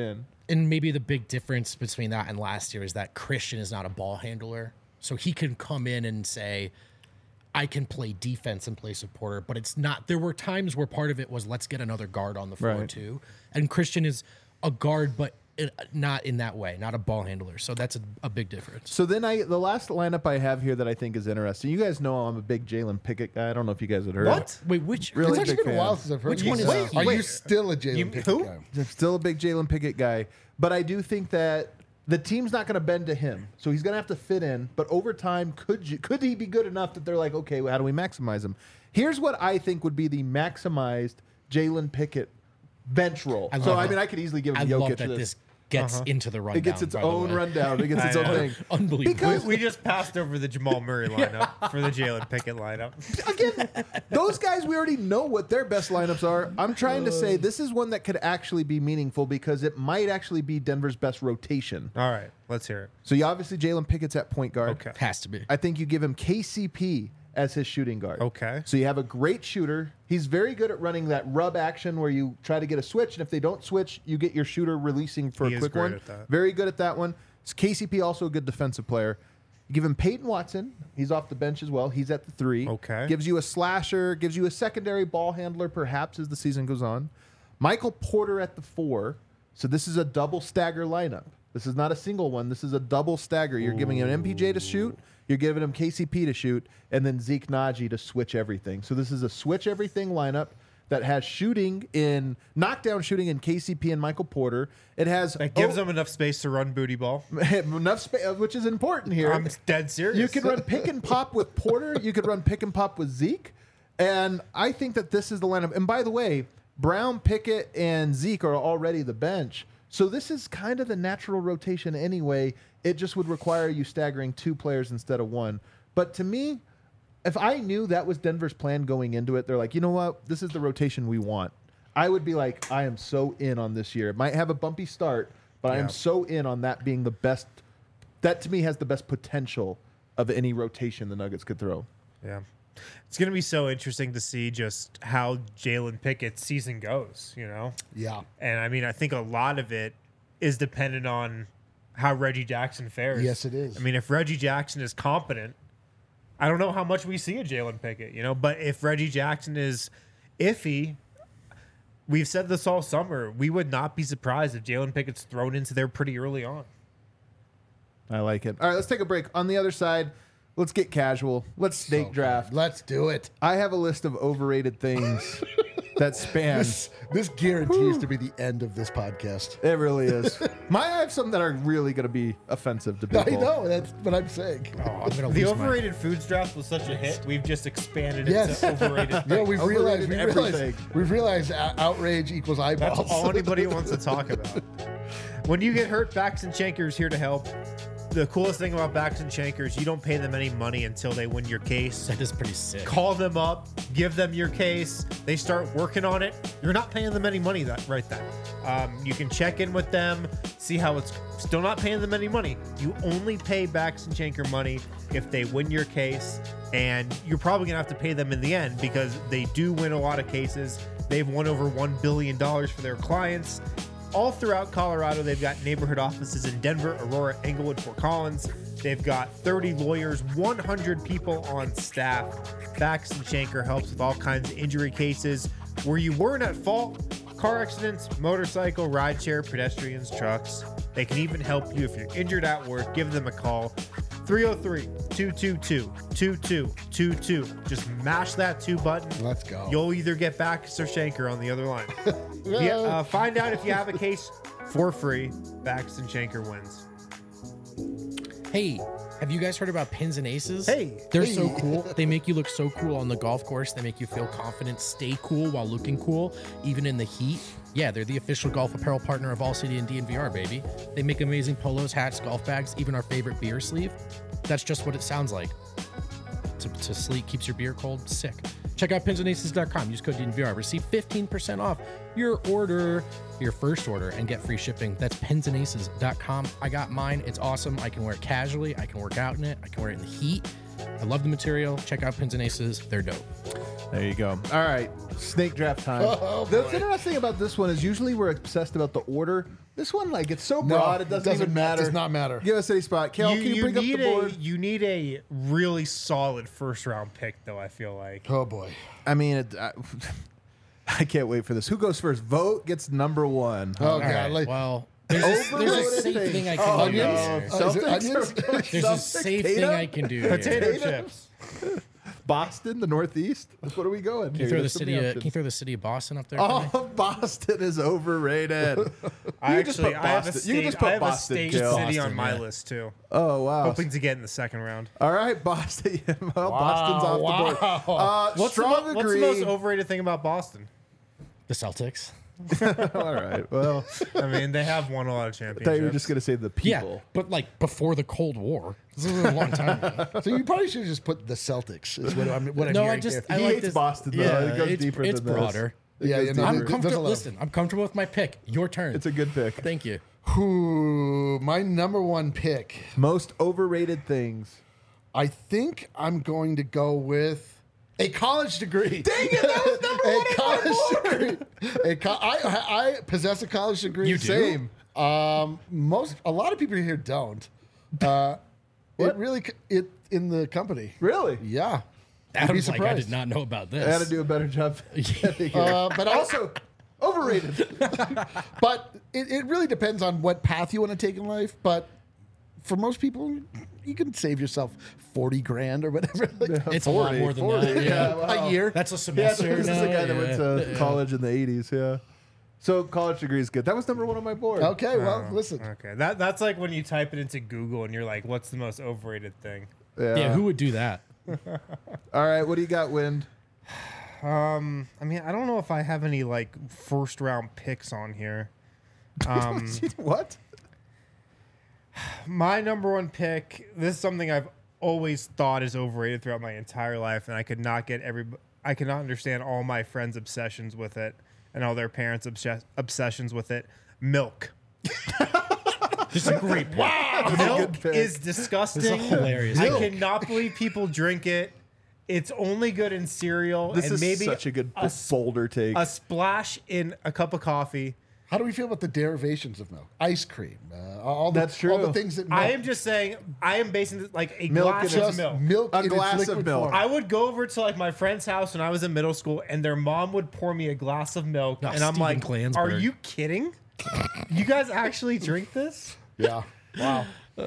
And maybe the big difference between that and last year is that Christian is not a ball handler. So he can come in and say, I can play defense in place of Porter, but it's not. There were times where part of it was let's get another guard on the floor too. And Christian is a guard, but not in that way, not a ball handler. So that's a big difference. So then the last lineup I have here that I think is interesting. You guys know I'm a big Jalen Pickett guy. I don't know if you guys had heard. What? Wait, which? Really It's actually big been a fan. while since I've heard Which you. one is Wait, he? Are you Wait. still a Jalen Pickett who? guy? I'm still a big Jalen Pickett guy, but I do think that the team's not going to bend to him, so he's going to have to fit in. But over time, could he be good enough that they're like, okay, well, how do we maximize him? Here's what I think would be the maximized Jalen Pickett bench role. I So love I that. mean, I could easily give I him Jokic love that this. this gets into the rundown. It gets its by the own way. rundown. It gets its own thing. Unbelievable. Because We just passed over the Jamal Murray lineup for the Jalen Pickett lineup. again, those guys, we already know what their best lineups are. I'm trying to say this is one that could actually be meaningful because it might actually be Denver's best rotation. All right, let's hear it. So you obviously Jalen Pickett's at point guard. Okay. Has to be. I think you give him KCP as his shooting guard. Okay. So you have a great shooter. He's very good at running that rub action where you try to get a switch, and if they don't switch, you get your shooter releasing for He a is quick great one. at that. Very good at that one. It's KCP also a good defensive player. You give him Peyton Watson. He's off the bench as well. He's at the 3. Okay. Gives you a slasher, gives you a secondary ball handler perhaps as the season goes on. Michael Porter at the 4. So this is a double stagger lineup. This is not a single one. This is a double stagger. You're giving him MPJ to shoot. You're giving him KCP to shoot, and then Zeke Naji to switch everything. So this is a switch everything lineup that has knockdown shooting in KCP and Michael Porter. It has That gives them enough space to run booty ball. enough space, which is important here. I'm dead serious. You can run pick and pop with Porter. You could run pick and pop with Zeke. And I think that this is the lineup. And by the way, Brown, Pickett, and Zeke are already the bench. So this is kind of the natural rotation anyway. It just would require you staggering 2 players instead of 1. But to me, if I knew that was Denver's plan going into it, they're like, you know what? This is the rotation we want. I would be like, I am so in on this year. It might have a bumpy start, but I am so in on that being the best. That to me has the best potential of any rotation the Nuggets could throw. Yeah. It's going to be so interesting to see just how Jalen Pickett's season goes, you know? Yeah. And I mean, I think a lot of it is dependent on how Reggie Jackson fares. Yes, it is. I mean, if Reggie Jackson is competent, I don't know how much we see of Jalen Pickett, you know? But if Reggie Jackson is iffy, we've said this all summer, we would not be surprised if Jalen Pickett's thrown into there pretty early on. I like it. All right, let's take a break. On the other side, let's get casual. Let's snake draft. Let's do it. I have a list of overrated things that span. This guarantees to be the end of this podcast. It really is. I have some that are really going to be offensive to I people. know. That's what I'm saying. Oh, I'm gonna The lose my- overrated foods draft was such a hit, we've just expanded Yes. it to overrated. Yeah, we've Overrated realized everything. we've realized outrage equals eyeballs. That's all anybody wants to talk about. When you get hurt, Backs and Shankers here to help. The coolest thing about Backs and Shankers, you don't pay them any money until they win your case. That is pretty sick. Call them up, give them your case. They start working on it. You're not paying them any money right then. You can check in with them, see how it's still not paying them any money. You only pay Backs and Shanker money if they win your case, and you're probably gonna have to pay them in the end because they do win a lot of cases. They've won over $1 billion for their clients. All throughout Colorado, they've got neighborhood offices in Denver, Aurora, Englewood, Fort Collins. They've got 30 lawyers, 100 people on staff. Backs and Shanker helps with all kinds of injury cases where you weren't at fault. Car accidents, motorcycle, rideshare, pedestrians, trucks. They can even help you if you're injured at work. Give them a call. 303-222-2222. Just mash that 2 button. Let's go. You'll either get Backus or Shanker on the other line. Find out if you have a case for free. Backus and Shanker wins. Hey, have you guys heard about Pins and Aces? Hey. They're so cool. They make you look so cool on the golf course. They make you feel confident, stay cool while looking cool, even in the heat. Yeah, they're the official golf apparel partner of All City and DNVR, baby. They make amazing polos, hats, golf bags, even our favorite beer sleeve. That's just what it sounds like. To sleep, keeps your beer cold, sick. Check out pinsandaces.com. Use code DNVR. Receive 15% off your order, your first order, and get free shipping. That's pinsandaces.com. I got mine. It's awesome. I can wear it casually. I can work out in it. I can wear it in the heat. I love the material. Check out Pins and Aces. They're dope. There you go. All right, snake draft time. Oh, What's boy. interesting about this one is usually we're obsessed about the order. This one, like, it's so No, broad, it doesn't even matter. Does not matter. Give us any spot. Kel, can you bring up the board? You need a really solid first round pick, though. I feel like. Oh boy. I mean, I can't wait for this. Who goes first? Vote gets number one. Oh All god. right, Like, well, there's a safe things. thing I can do onions? here. Is it Celtics onions? are going There's a Celtics, safe Tatum? thing I can do here. Potato Tatum? chips. Boston, the Northeast. What are we going? Can you throw the city? Can you throw the city of Boston up there? for me? Oh, Boston is overrated. I just actually, put I have a Boston. state, You can just put I have Boston, a state Jill. city on Boston, my yeah. list too. Oh wow! Hoping to get in the second round. All right, Boston. Well, Boston's off the board. What's the, Strong what's the agree. most overrated thing about Boston? The Celtics. All right. Well, I mean, they have won a lot of I championships. thought you were just gonna say the people. Yeah, but like before the Cold War. This was a long time ago. so you probably should have just put the Celtics. Is what I'm No, hearing I just here. I He like hates this. Boston, though. Yeah, It goes it's, deeper it's than this. broader. Yeah, you know, I'm there's a comfortable. lot. Listen, I'm comfortable with my pick. Your turn. It's a good pick. Thank you. Ooh, my number one pick. Most overrated things. I think I'm going to go with a college degree. Dang it, that was number one on my degree. I possess a college degree. You do? Same. A lot of people here don't. It really in the company. Really? Yeah. Adam's like, I surprised. did not know about this. I had to do a better job. But Also, overrated. But it really depends on what path you want to take in life. But for most people, you can save yourself 40 grand or whatever. Like, It's a lot more than that. Yeah. a year. That's a Yeah, semester. this is now, a guy that went to yeah. college in the 80s. Yeah. So college degree is good. That was number one on my board. Okay, well, listen. Okay, that's like when you type it into Google and you're like, "What's the most overrated thing?" Yeah, who would do that? All right, what do you got, Wind? I mean, I don't know if I have any like first round picks on here. What? My number one pick. This is something I've always thought is overrated throughout my entire life, and I could not understand all my friends' obsessions with it and all their parents' obsessions with it. Milk. This is a great pick. Wow. Milk is disgusting. This is a hilarious I pick. cannot believe people drink it. It's only good in cereal This and is maybe such a good boulder take. a splash in a cup of coffee. How do we feel about the derivations of milk? Ice cream. All the, That's true. All the things that milk, I am just saying, I am basing this like a Milk glass in of its- milk. milk A in its glass of liquid milk. form. I would go over to like my friend's house when I was in middle school, and their mom would pour me a glass of milk, No, and I'm Steven like, Klansberg. "Are you kidding? You guys actually drink this?" Yeah. Wow.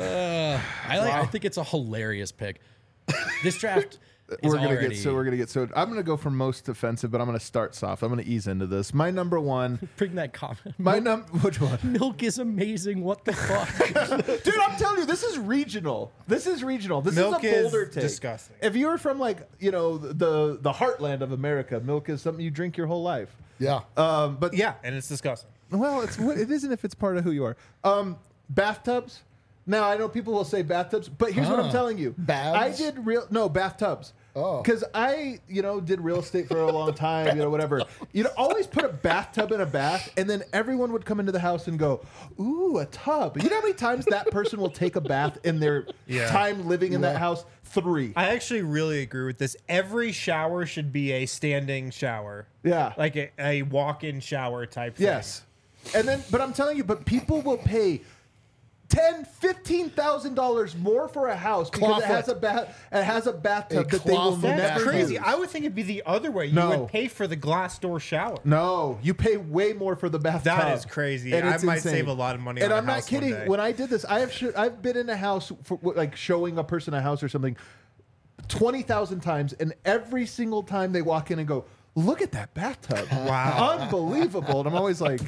I think it's a hilarious pick. This draft is we're gonna already. get so I'm gonna go for most offensive, but I'm gonna start soft. I'm gonna ease into this. My number one. Bring that comment. Which one? Milk is amazing. What the fuck? Dude, I'm telling you, this is regional. This is Milk a bolder is take. disgusting. If you're from like the heartland of America, milk is something you drink your whole life. Yeah. But Yeah, and it's disgusting. well, it isn't if it's part of who you are. Bathtubs. Now I know people will say bathtubs, but here's what I'm telling you. Baths? I did bathtubs. Oh. Because I, did real estate for a long time, whatever. Always put a bathtub in a bath, and then everyone would come into the house and go, "Ooh, a tub." You know how many times that person will take a bath in their time living in that house? 3. I actually really agree with this. Every shower should be a standing shower. Yeah. Like a walk-in shower type thing. Yes. And then, but I'm telling you, people will pay $10,000-$15,000 more for a house because it has a bathtub that they will clawfoot never That's crazy. use. I would think it'd be the other way. You No. would pay for the glass door shower. No, you pay way more for the bathtub. That is crazy. And I it's might insane. save a lot of money And on a I'm not house one kidding. day. When I did this, I've been in a house for like showing a person a house or something 20,000 times, and every single time they walk in and go, "Look at that bathtub! Wow. Unbelievable!" And I'm always like,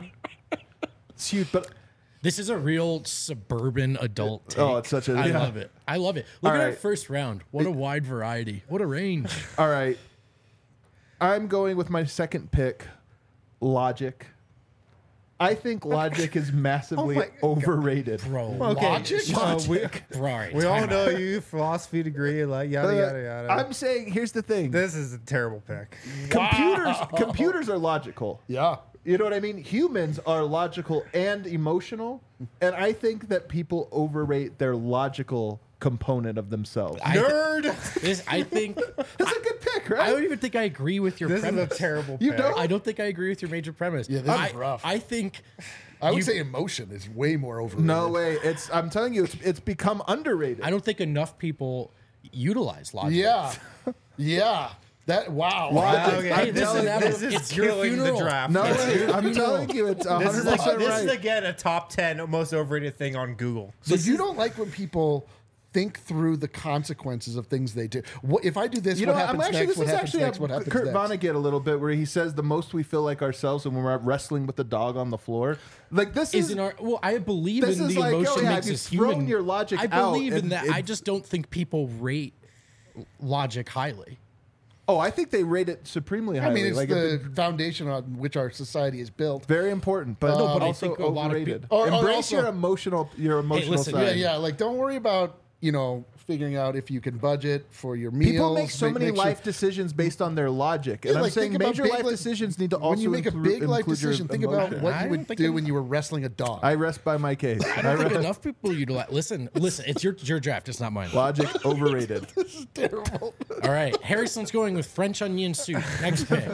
"It's huge," but. This is a real suburban adult take. Oh, it's such a- I yeah. love it. I love it. Look All at our right. first round. What a wide variety. What a range. All right. I'm going with my second pick, Logic. I think Logic is massively my God. overrated. Bro. Okay, Logic? so Bro, all right, we all time know out. you philosophy degree, like yada yada yada. I'm saying, here's the thing. This is a terrible pick. Computers are logical. Yeah. You know what I mean? Humans are logical and emotional, and I think that people overrate their logical component of themselves. Nerd. I think That's a good pick, right? I don't even think I agree with your This is premise. a terrible You pick. don't? I don't think I agree with your major premise. Yeah, this is rough. I think I would say emotion is way more overrated. No way. I'm telling you, it's become underrated. I don't think enough people utilize logic. Yeah. Yeah. Wow. Logic. Okay, I'm telling you, this is it's your killing the funeral. draft. no It's way. your I'm funeral. telling you, it's 100% This is, like, right. this is again a top 10 most overrated thing on Google. So you don't like when people think through the consequences of things they do. If I do this, You what know, happens I'm actually, next? this What is happens actually next? What happens Kurt next? Vonnegut a little bit, where he says the most we feel like ourselves when we're wrestling with the dog on the floor. Like this Is is in our well, I believe This in is the like, emotion oh, yeah, makes if us you've thrown human. your logic I believe out, in that. it- I just don't think people rate logic highly. Oh, I think they rate it supremely highly. I mean, it's like the foundation on which our society is built. very important, but, No, but I also think a lot of overrated. people- Or Embrace also- your emotional listen, side. Yeah. Like, don't worry about figuring out if you can budget for your meals. People make so many make sure- life decisions based on their logic, and Yeah, I'm like, saying think about major big life li- decisions need to also when you make a big life include your decision, think about emotion. what I you don't would think do it- when you were wrestling a dog. I rest by my case. I don't think enough people utilize. Listen. It's your draft. It's not mine. Logic overrated. Terrible. All right, Harrison's going with French onion soup. Next pick.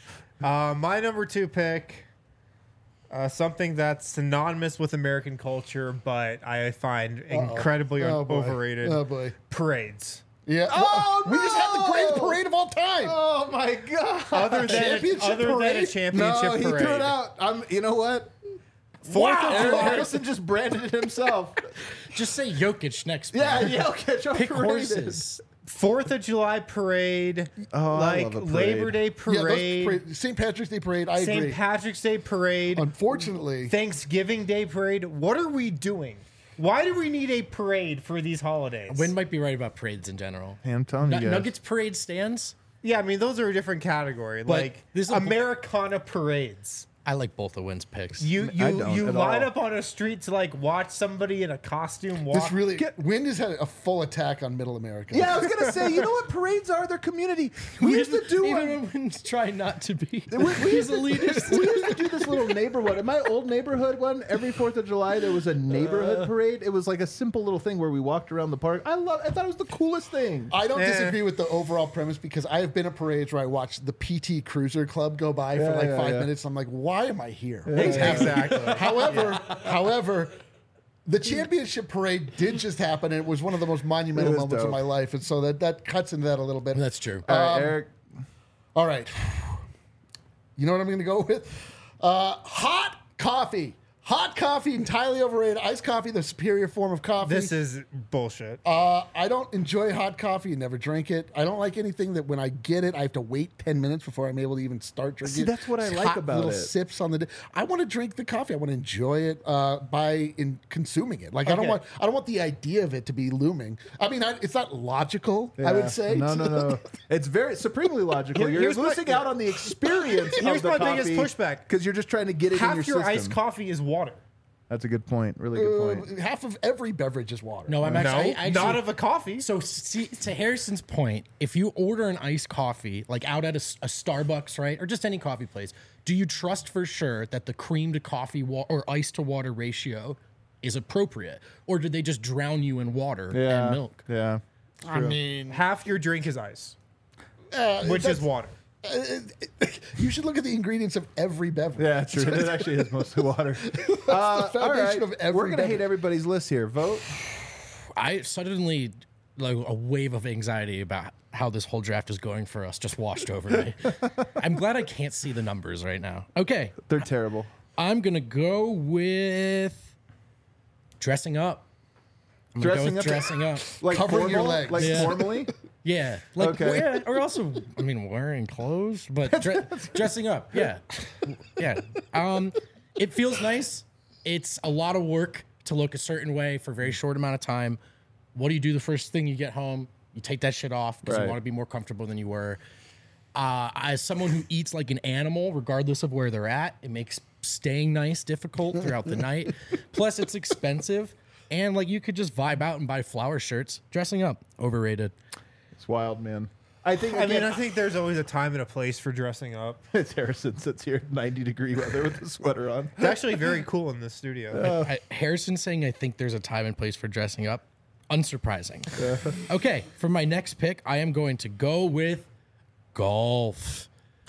My number 2 pick, something that's synonymous with American culture, but I find incredibly Oh, boy. overrated. Oh boy. Parades. Yeah. Oh, we just had the no! greatest parade of all time. Oh my god! Other than Championship a parade? championship No, he parade. threw it out. You know what? Fourth of July. Harrison just branded it himself. Just say Jokic next. Yeah, pick. Jokic Pick overrated. horses. 4th of July parade, Oh, I like love a parade. Labor Day Yeah, those parade, St. Patrick's Day parade. I agree. St. Patrick's Day parade, Unfortunately, Thanksgiving Day parade. What are we doing? Why do we need a parade for these holidays? Wynn might be right about parades in general. Hey, I'm telling you guys. Nuggets parade stands. Yeah, I mean those are a different category. Like this is a- Americana parades. I like both of Wynn's picks. You I don't at line all. up on a street to like watch somebody in a costume walk. this really Wind has had a full attack on Middle America. Yeah, I was gonna say, you know what parades are? They're community. We used to do even one. when Wynn's trying not to be. We He's used, to, elitist. we used to do this little neighborhood. In my old neighborhood one, every 4th of July, there was a neighborhood parade. It was like a simple little thing where we walked around the park. I thought it was the coolest thing. I don't Eh. disagree with the overall premise because I have been at parades where I watched the PT Cruiser Club go by for Yeah, like yeah, 5 yeah. minutes. I'm like, why am I here? Exactly. However, the championship parade did just happen, and it was one of the most monumental It was moments of dope. my life, and so that cuts into that a little bit. That's true. All right, Eric. All right, you know what I'm going to go with? Hot coffee. Hot coffee, entirely overrated. Iced coffee, the superior form of coffee. This is bullshit. I don't enjoy hot coffee and never drink it. I don't like anything that when I get it, I have to wait 10 minutes before I'm able to even start drinking See, it. that's what I It's like hot about little it. sips on the day. I want to drink the coffee. I want to enjoy it by consuming it. Like I don't Okay. want the idea of it to be looming. I mean, it's not logical. I Yeah. would say No. It's very supremely logical. You're Here's my- losing out on the experience. Here's my biggest pushback. because you're just trying to get it in Half your your system. iced coffee is water. That's a good point. Really good point. half of every beverage is water. No, I'm No, actually, I not actually of a coffee. So see, to Harrison's point, if you order an iced coffee, like out at a Starbucks, right, or just any coffee place, do you trust for sure that the cream to coffee or ice to water ratio is appropriate, or did they just drown you in water Yeah. and milk? Yeah. I mean, Half your drink is ice, which is water. you should look at the ingredients of every beverage. Yeah, true. It actually is mostly water. the All foundation right. of every We're going to hate beverage. everybody's list here. Vote. I suddenly like a wave of anxiety about how this whole draft is going for us just washed over me. I'm glad I can't see the numbers right now. Okay, They're terrible. I'm gonna go with dressing up. I'm gonna Dressing go with up? dressing up. Like Covering your formal? legs. Like Yeah. formally? Yeah, like Okay. yeah, or also, I mean, wearing clothes, but dressing up. Yeah, yeah. It feels nice. It's a lot of work to look a certain way for a very short amount of time. What do you do the first thing you get home? You take that shit off because Right. you want to be more comfortable than you were. As someone who eats like an animal, regardless of where they're at, it makes staying nice difficult throughout the night. Plus, it's expensive, and like you could just vibe out and buy flower shirts. Dressing up, overrated. It's wild, man. I think, I mean, again, I think there's always a time and a place for dressing up. it's Harrison sits here in 90-degree weather with a sweater on. It's actually very cool in this studio. Harrison saying, I think there's a time and place for dressing up. Unsurprising. Okay, for my next pick, I am going to go with golf.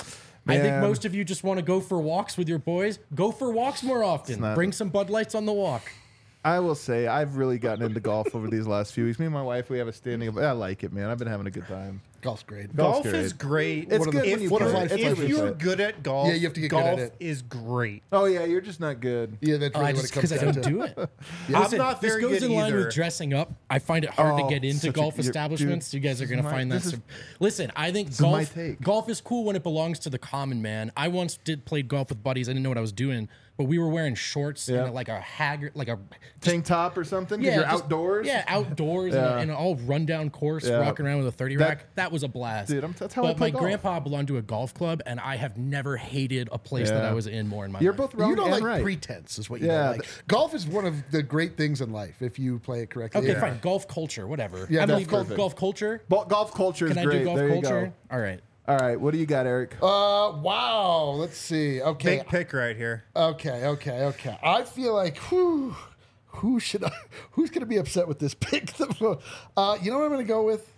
I think Man. most of you just want to go for walks with your boys. Go for walks more often. not- Bring some Bud Lights on the walk. I will say I've really gotten into golf over these last few weeks. Me and my wife, we have a standing. I like it, man. I've been having a good time. Golf's great. Golf's Golf is great. It's One of good the- when you one of play. my It's favorite good when If you you're play. good at golf, Yeah, you have to get good golf at it. is great. Oh yeah, you're just not good. Yeah, that's really I what just it comes because I down don't to. do it. I'm Listen, not very this goes good in line either. with dressing up. I find it hard Oh, to get into such a- golf you're- establishments. dude, You guys are this going is to my- find that. this is- Listen, I think is my golf. take. Golf is cool when it belongs to the common man. I once played golf with buddies. I didn't know what I was doing, but we were wearing shorts Yeah. and like a haggard, like a Tank top or something? Because you're just- outdoors? Yeah, outdoors Yeah. in an all rundown course, Yeah. walking around with a 30 That- rack. That was a blast. Dude, that's how I but play my golf. grandpa belonged to a golf club, and I have never hated a place that Yeah. I was in more in my You're life. both wrong You don't and like right. pretense, is what you Yeah, don't like. Golf is one of the great things in life if you play it correctly. Okay, Yeah. fine. Golf culture, whatever. Yeah, I that's believe perfect. golf culture. Golf culture is Can I great. do golf there culture? you go. All right. All right, what do you got, Eric? Wow. Let's see. Okay. Big pick right here. Okay. I feel like who's going to be upset with this pick? You know what I'm going to go with?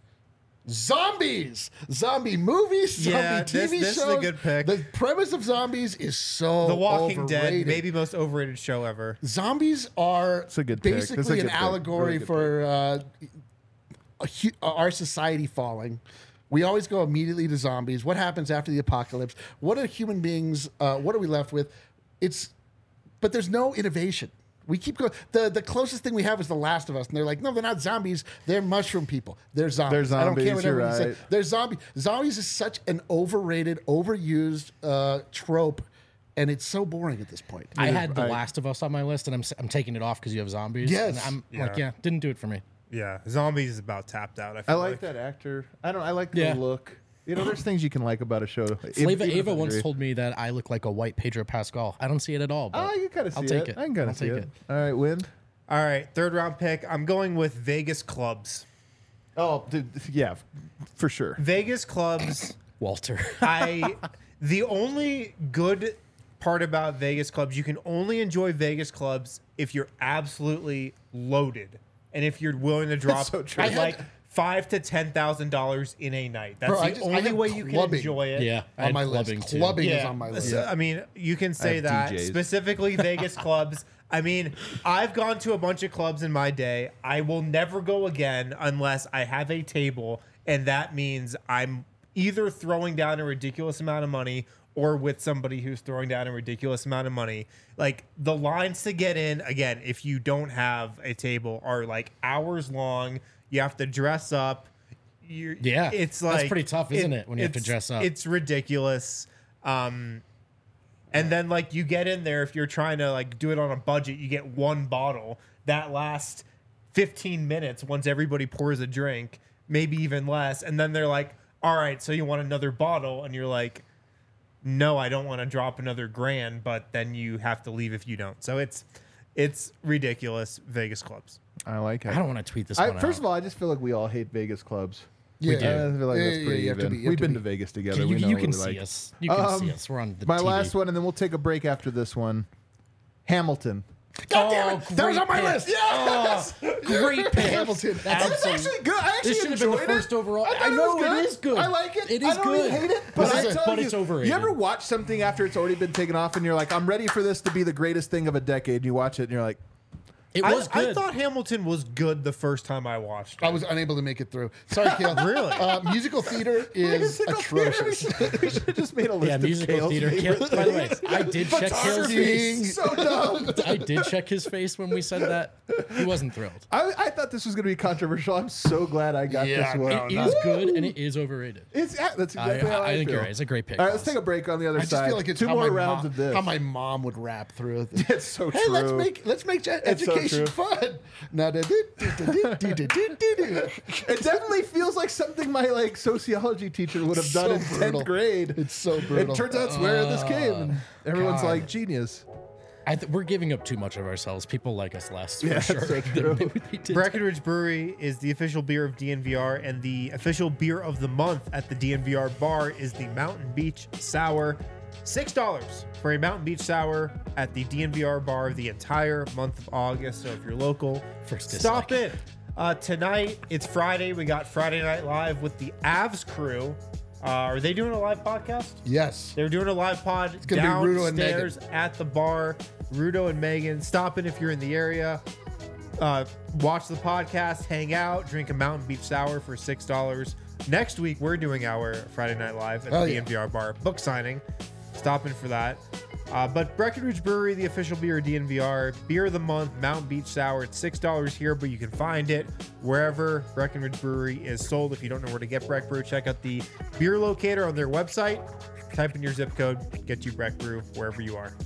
Zombies, zombie movies, zombie Yeah, TV this shows. is a good pick. The premise of zombies is so The Walking Dead, overrated. maybe most overrated show ever. Zombies are a good pick. That's a basically good an pick. allegory Really good for our society falling. We always go immediately to zombies. What happens after the apocalypse? What are human beings? What are we left with? But there's no innovation. We keep going. The closest thing we have is The Last of Us, and they're like, no, they're not zombies. They're mushroom people. They're zombies. They're I don't care zombies, what you're everyone right. says. They're zombies. Zombies is such an overrated, overused trope, and it's so boring at this point. I had The I- Last of Us on my list, and I'm taking it off because you have zombies. Yes. And I'm like, Yeah. didn't do it for me. Yeah, Zombies is about tapped out. I feel like that actor. I like the Yeah. look. You know, there's things you can like about a show. Flava Even if Ava I once agree. told me that I look like a white Pedro Pascal. I don't see it at all. But Oh, you kind of see I'll take it. it. I can kind I'll of see take it. it. All right, Win. All right, third round pick. I'm going with Vegas clubs. Oh, dude, yeah, for sure. Vegas clubs. Walter. The only good part about Vegas clubs, you can only enjoy Vegas clubs if you're absolutely loaded and if you're willing to drop so true. like $5,000 to $10,000 in a night. That's Bro, I the just- I only have way you can clubbing. enjoy it. yeah, I on had my clubbing list. too. Clubbing is on my list. So, I mean, you can say have that DJs. specifically Vegas clubs. I mean, I've gone to a bunch of clubs in my day. I will never go again unless I have a table, and that means I'm either throwing down a ridiculous amount of money or with somebody who's throwing down a ridiculous amount of money. Like the lines to get in, again, if you don't have a table, are like hours long. You have to dress up. Yeah, It's that's like pretty tough, isn't it, when you have to it's- dress up? It's ridiculous. And then like you get in there, if you're trying to like do it on a budget, you get one bottle that lasts 15 minutes once everybody pours a drink, maybe even less. And then they're like, all right, so you want another bottle? And you're like, no, I don't want to drop another grand, but then you have to leave if you don't. So it's ridiculous. Vegas clubs. I like it. I don't want to tweet this one out. First of all, I just feel like we all hate Vegas clubs. Yeah, do. I feel like that's pretty you have to even. be- you have We've to been be. to Vegas together. you, we know you what can we see like. us. You can see us. We're on the My TV. last one, and then we'll take a break after this one. Hamilton. God damn it! That was on my great list. pick. Yes. Great pick. Hamilton. It's actually good. I actually This should have been the enjoyed it. first overall. I, thought I know it, was it is good. I like it. It I is don't good. hate it, but This is I tell it's you, overrated. you ever watch something after it's already been taken off, and you're like, I'm ready for this to be the greatest thing of a decade, and you watch it, and you're like, It was I good. thought Hamilton was good the first time I watched it. I was unable to make it through. Sorry, Kale. Really? Musical theater is musical theater. atrocious. We should have just made a list yeah, of musical Kale's theater. favorite By the way, I did check Kale's face. So dumb. I did check his face when we said that. He wasn't thrilled. I thought this was going to be controversial. I'm so glad I got Yeah, this one. no, It is good and it is overrated. That's exactly how I think feel. you're right. It's a great pick. All right, let's take a break on the other I just side. feel like it's Two how more my rounds mom, of this. how my mom would rap through it. It's so Hey, true. let's make It's so education true. fun. Now, It definitely feels like something my sociology teacher would have done So in brutal. 10th grade. It's so brutal. It turns out it's where this came. And everyone's God. like, genius. We're giving up too much of ourselves. People like us less, Yeah, for that's sure. so true. They did. Breckenridge Brewery is the official beer of DNVR, and the official beer of the month at the DNVR bar is the Mountain Beach Sour. $6 for a Mountain Beach Sour at the DNVR bar the entire month of August. So if you're local, First stop dislike. in. Tonight, it's Friday. We got Friday Night Live with the Avs crew Are they doing a live podcast? Yes. They're doing a live pod gonna be Rudo and downstairs at the bar. Rudo and Megan, stop in if you're in the area. Watch the podcast, hang out, drink a Mountain Beach Sour for $6. Next week, we're doing our Friday Night Live at the DNVR bar book signing. Stop in for that. But Breckenridge Brewery, the official beer of DNVR, beer of the month, Mountain Beach Sour. It's $6 here, but you can find it wherever Breckenridge Brewery is sold. If you don't know where to get Breck Brew, check out the beer locator on their website. Type in your zip code, get you Breck Brew wherever you are.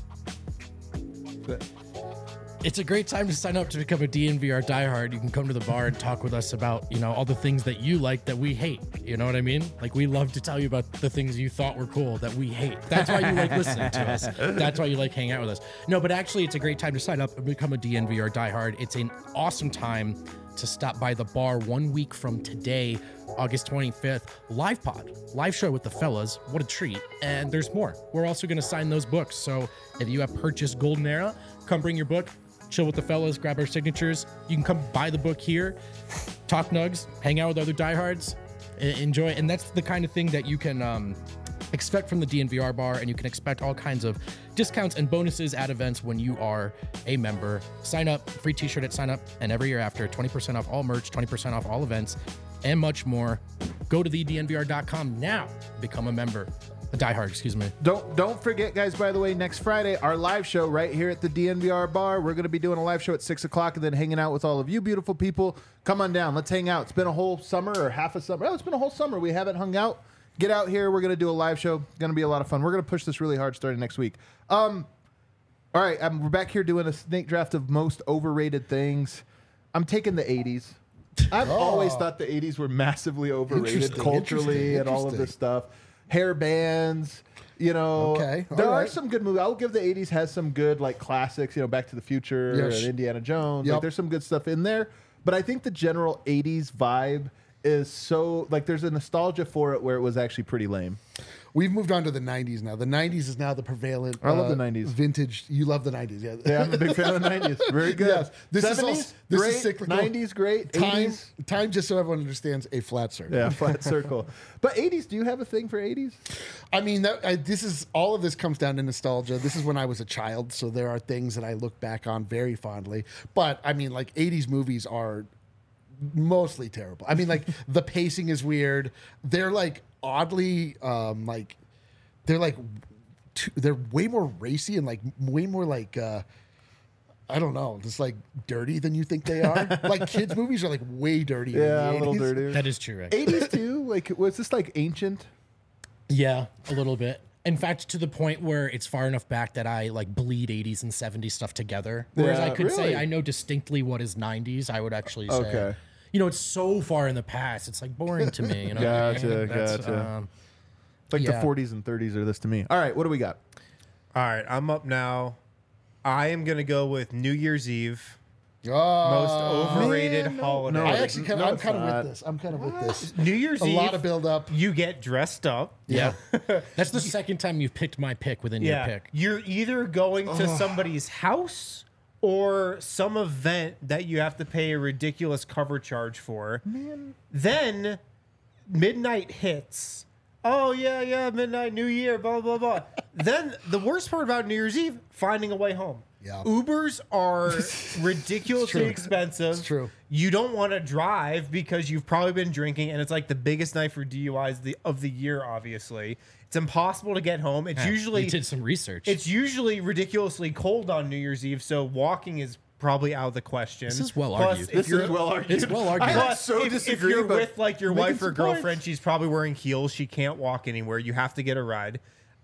It's a great time to sign up to become a DNVR diehard. You can come to the bar and talk with us about, all the things that you like that we hate. You know what I mean? Like, we love to tell you about the things you thought were cool that we hate. That's why you like listening to us. That's why you like hanging out with us. No, but actually, it's a great time to sign up and become a DNVR diehard. It's an awesome time to stop by the bar 1 week from today, August 25th. Live pod, live show with the fellas. What a treat. And there's more. We're also going to sign those books. So if you have purchased Golden Era, come bring your book. Chill with the fellas, grab our signatures. You can come buy the book here, talk nugs, hang out with other diehards, enjoy. And that's the kind of thing that you can expect from the DNVR bar, and you can expect all kinds of discounts and bonuses at events when you are a member. Sign up, free t-shirt at sign up, and every year after, 20% off all merch, 20% off all events, and much more. Go to thednvr.com now, become a member. A diehard, excuse me. Don't forget, guys, by the way, next Friday, our live show right here at the DNVR bar. We're going to be doing a live show at 6 o'clock and then hanging out with all of you beautiful people. Come on down. Let's hang out. It's been a whole summer or half a summer. Oh, it's been a whole summer. We haven't hung out. Get out here. We're going to do a live show. Going to be a lot of fun. We're going to push this really hard starting next week. All right, we're back here doing a snake draft of most overrated things. I'm taking the 80s. I've always thought the 80s were massively overrated culturally and all of this stuff. Hair bands, there are some good movies. I'll give the 80s has some good classics, Back to the Future and Indiana Jones. Yep. There's some good stuff in there. But I think the general 80s vibe is so there's a nostalgia for it where it was actually pretty lame. We've moved on to the 90s now. The 90s is now the prevalent. I love the 90s. Vintage. You love the 90s, yeah. Yeah, I'm a big fan of the 90s. Very good. Yes. This 70s, is great. cyclical. 90s, great. Time, 80s. just so everyone understands, a flat circle. Yeah, flat circle. But 80s, do you have a thing for 80s? I mean, all of this comes down to nostalgia. This is when I was a child, so there are things that I look back on very fondly. But I mean, 80s movies are mostly terrible. I mean, the pacing is weird. They're oddly they're way more racy and way more I don't know, just dirty than you think they are. Kids movies are way dirtier. Yeah, than a the little 80s. dirtier. That is true, right? 80s too? Was this ancient? Yeah, a little bit. In fact, to the point where it's far enough back that I bleed 80s and 70s stuff together. Whereas Yeah, I could say really? I know distinctly what is 90s. I would actually say, Okay. It's so far in the past. It's boring to me. You know what I mean? Gotcha, That's, gotcha. yeah. The 40s and 30s are this to me. All right, what do we got? All right, I'm up now. I am going to go with New Year's Eve. Most Oh, overrated man, no. holiday. No, I actually No, I'm it's kind of not. with this. I'm kind of with this. New Year's A Eve. lot of build up. You get dressed up. Yeah. That's the second time you've picked my pick within your pick. You're either going to somebody's house or some event that you have to pay a ridiculous cover charge for. Man. Then midnight hits. Oh, yeah, midnight, New Year, blah, blah, blah. Then the worst part about New Year's Eve, finding a way home. Yeah. Ubers are ridiculously expensive. It's true. You don't want to drive because you've probably been drinking, and it's the biggest night for DUIs of the year, obviously. It's impossible to get home. It's usually We did some research. it's usually ridiculously cold on New Year's Eve, so walking is probably out of the question. This is well Plus, argued. if This you're- is well argued. It's well argued. I Plus, so if disagree, you're but with your making wife or some girlfriend, points. she's probably wearing heels. She can't walk anywhere. You have to get a ride.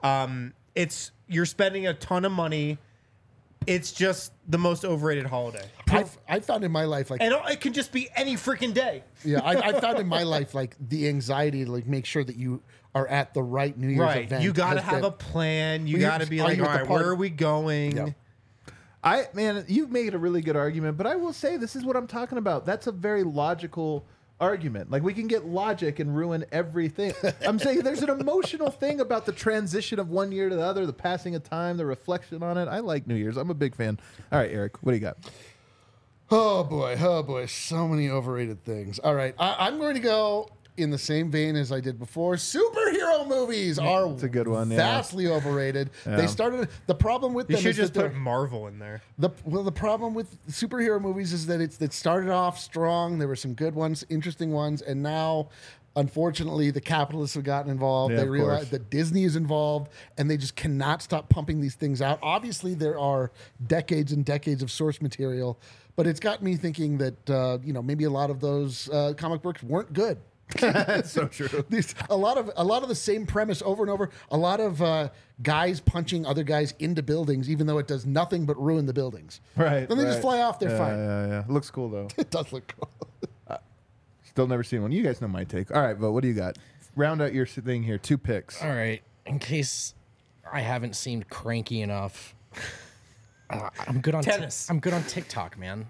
You're spending a ton of money. It's just the most overrated holiday. I found in my life And it can just be any freaking day. I found in my life the anxiety to make sure that you are at the right New Year's Right. event. You got to has have been- a plan. You Well, got to be are like, you all at the right, party? where are we going? Yeah. Man, you've made a really good argument, but I will say this is what I'm talking about. That's a very logical argument. We can get logic and ruin everything. I'm saying there's an emotional thing about the transition of one year to the other, the passing of time, the reflection on it. I like New Year's. I'm a big fan. All right, Eric, what do you got? Oh boy, so many overrated things. All right, I'm going to go in the same vein as I did before. Superhero movies are It's a good one, yeah. vastly overrated. Yeah. They started the problem with You them should is just that put Marvel in there. the problem with superhero movies is that it started off strong. There were some good ones, interesting ones, and now, unfortunately, the capitalists have gotten involved. Yeah, They of realize course. that Disney is involved, and they just cannot stop pumping these things out. Obviously, there are decades and decades of source material, but it's got me thinking that maybe a lot of those comic books weren't good. That's so true. A lot of the same premise over and over. A lot of guys punching other guys into buildings, even though it does nothing but ruin the buildings. Right. Then they just right. fly off. They're Yeah, fine. Yeah. Looks cool though. It does look cool. Still never seen one. You guys know my take. All right, but what do you got? Round out your thing here. 2 picks. All right. In case I haven't seemed cranky enough, I'm good on Tennis. I'm good on TikTok, man.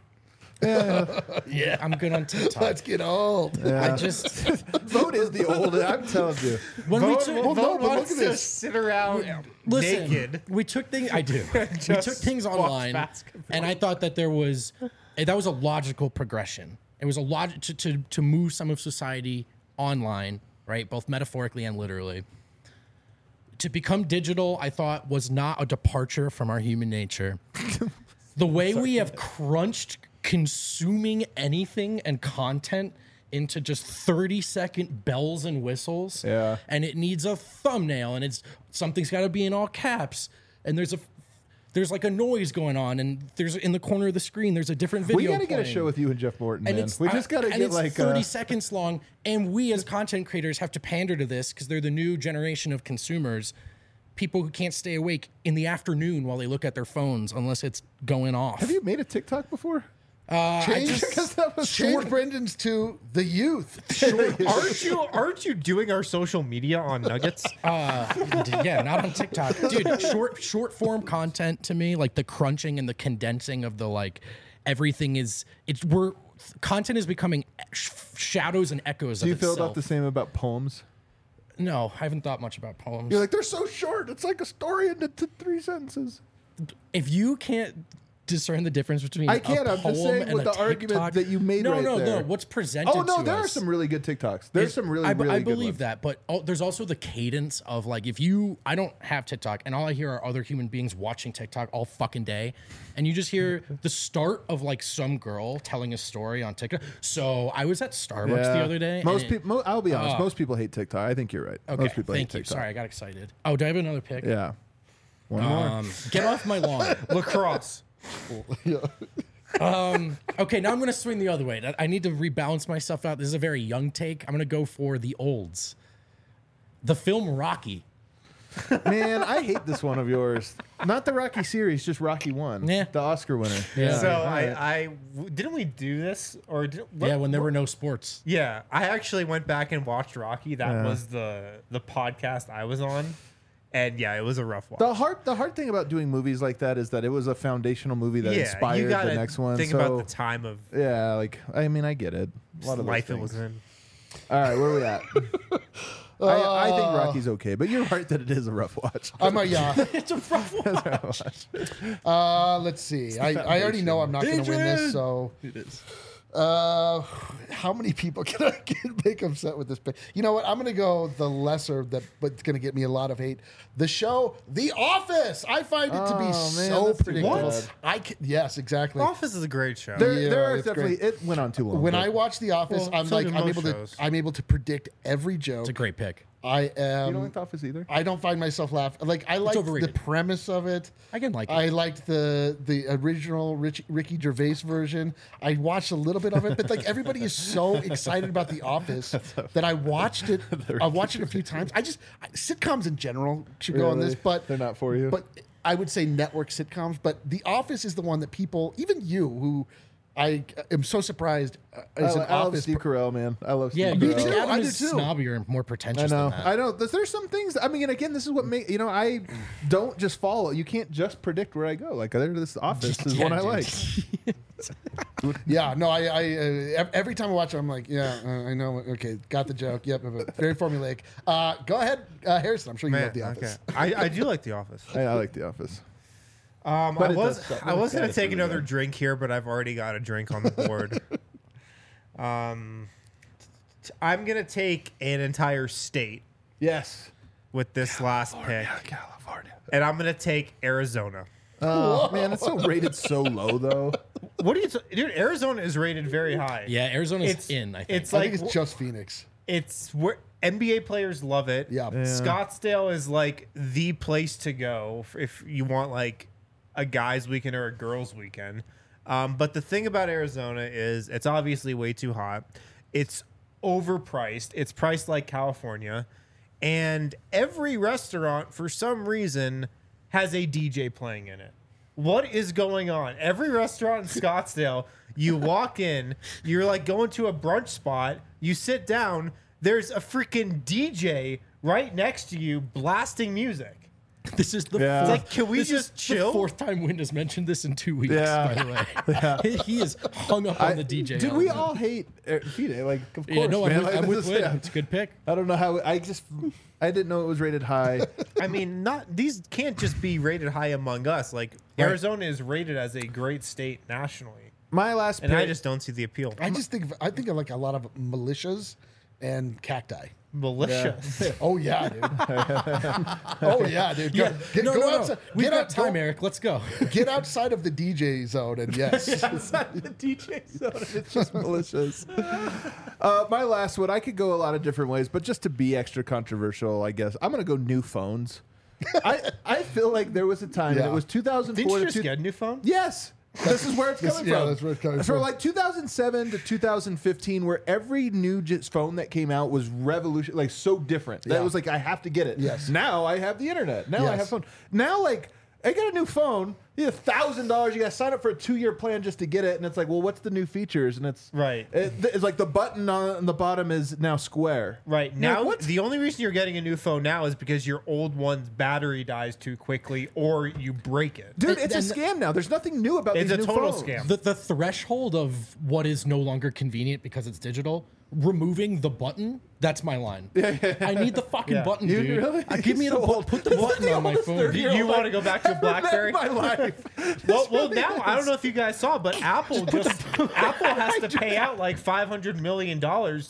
Yeah, I'm good on TikTok. Let's get old. I just Vote is the old. I'm telling you. when we Vote, took well, no, Vote but look wants at to this. sit around listen, naked. we took things. I do. We Just took things watch online, basketball. and I thought that that was a logical progression. It was a logic to move some of society online, right? Both metaphorically and literally. To become digital, I thought was not a departure from our human nature. The way we have crunched consuming anything and content into just 30-second bells and whistles. Yeah. And it needs a thumbnail, and something's got to be in all caps, and there's like a noise going on, and there's in the corner of the screen there's a different video. We got to get a playing. show with you and Jeff Morton, And man. We just got to and get it's like 30 seconds long, and we as content creators have to pander to this because they're the new generation of consumers, people who can't stay awake in the afternoon while they look at their phones unless it's going off. Have you made a TikTok before? Change, Because that was change Brendan's to the youth. Aren't you doing our social media on Nuggets? Yeah, not on TikTok, dude. Short form content to me, like the crunching and the condensing of the everything is content is becoming shadows and echoes. Do you of feel itself. about the same about poems? No, I haven't thought much about poems. You're like, they're so short. It's like a story into 3 sentences. If you can't discern the difference between I can't. a I'm just poem saying and with a the argument TikTok- that you made no, right no, there. no. What's presented Oh, no, to there are us some really good TikToks. There's some really I good believe ones. that, but there's also the cadence of like I don't have TikTok, and all I hear are other human beings watching TikTok all fucking day, and you just hear the start of like some girl telling a story on TikTok. So I was at Starbucks the other day. Most and people, I'll be honest, most people hate TikTok. I think you're right. Okay, Most people thank hate you. TikTok. Sorry, I got excited. Oh, do I have another pick? Yeah. One more. Get off my lawn. Lacrosse. Okay, now I'm going to swing the other way. I need to rebalance myself out. This is a very young take. I'm going to go for the olds. The film Rocky. Man, I hate this one of yours. Not the Rocky series, just Rocky 1. Yeah. The Oscar winner. Yeah. So didn't we do this or Yeah, when there were no sports. Yeah, I actually went back and watched Rocky. That Yeah. was the podcast I was on, and yeah, it was a rough watch. The hard thing about doing movies like that is that it was a foundational movie that you inspired gotta the next one. Think so, about the time of yeah, like I mean, I get it. A lot of those life it things. was in. All right, where are we at? I think Rocky's okay, but you're right that it is a rough watch. It's a rough watch. Let's see. I already know I'm not going to win this, so It is. how many people can I make upset with this pick? You know what? I'm going to go the lesser, but it's going to get me a lot of hate. The show, The Office. I find it to be Oh, man, so that's too predictable. bad. Yes, exactly. Office is a great show. There Yeah, are it's definitely. great. It went on too long. When but I watch The Office, Well, so do most shows. I'm able to predict every joke. It's a great pick. I am. you don't like The Office either. I don't find myself laughing. Like I like the overrated. premise of it. I can like it. I liked the original Ricky Gervais version. I watched a little bit of it, but like everybody is so excited about The Office that I watched it. I watched it a few times. Sitcoms in general should go on this, Really? but They're not for you? But I would say network sitcoms. But The Office is the one that people, even you, who I am so surprised is an I love Office. Steve Carell, man. I love Yeah, Steve you Carell. think too. Adam I do is too. snobbier and more I pretentious know. than that. I know. There's some things. I mean, again, this is what make I don't just follow. You can't just predict where I go. Like this Office is Yeah, one I dude. like. Yeah, no, I every time I watch it, I'm like, yeah, I know. Okay, got the joke. Yep, very formulaic. Go ahead, Harrison. I'm sure you love The Office. I do like The Office. I like The Office. I But it was does suck. I was gonna It's take really another bad. drink here, but I've already got a drink on the board. I'm gonna take an entire state Yes. with this last pick, California. and I'm gonna take Arizona. Oh man, it's so rated so low though. What do you, dude? Arizona is rated very high. Yeah, Arizona's in. I think. It's I like think it's just Phoenix. it's where NBA players love it. Yeah. Scottsdale is like the place to go if you want like a guys' weekend or a girls' weekend. But the thing about Arizona is it's obviously way too hot. It's overpriced. It's priced like California. And every restaurant, for some reason, has a DJ playing in it. What is going on? Every restaurant in Scottsdale, you walk in, you're like going to a brunch spot, you sit down, there's a freaking DJ right next to you blasting music. This is the Yeah. fourth, Like, can we this just is chill? The fourth time Wind has mentioned this in 2 weeks. Yeah. By the way, he is hung up on the DJ. Dude, we element. all hate Phoenix. Like, of course, Yeah, no, man. I'm with this is- Wind. yeah. It's a good pick. I don't know how. I didn't know it was rated high. I mean, not these can't just be rated high among us. Like Arizona is rated as a great state nationally, My last and pick. I just don't see the appeal. I think of like a lot of militias and cacti. Malicious. Oh yeah, dude. Oh yeah, dude. Yeah, Go outside. We've Get got out, time, go- Eric. Let's go. Get outside of the DJ zone, and yes, the DJ zone. It's just malicious. My last one. I could go a lot of different ways, but just to be extra controversial, I guess I'm gonna go new phones. I feel like there was a time, and Yeah. it was 2004 Didn't you to just get a new phone? Yes. This is where it's coming yeah, from. that's where it's coming So from. like 2007 to 2015, where every new phone that came out was revolution, like so different. That Yeah. was like I have to get it. Yes. Now I have the internet. Now I Yes. have phone. Now like I got a new phone. You have $1,000. You got to sign up for a 2-year plan just to get it, and it's like, well, what's the new features? And it's Right. It's like the button on the bottom is now square. Right. You're like, Now, what? the only reason you're getting a new phone now is because your old one's battery dies too quickly or you break it. Dude, it's a and- scam now. There's nothing new about It's these a new total phones. scam. The threshold of what is no longer convenient because it's digital, removing the button, that's my line. I need the fucking Yeah. button, You dude. really? Give me So the old. put the This is button the on my oldest phone. 30-year-old You want to go back to BlackBerry? My life. Well, now I don't know if you guys saw, but Apple has to pay out like $500 million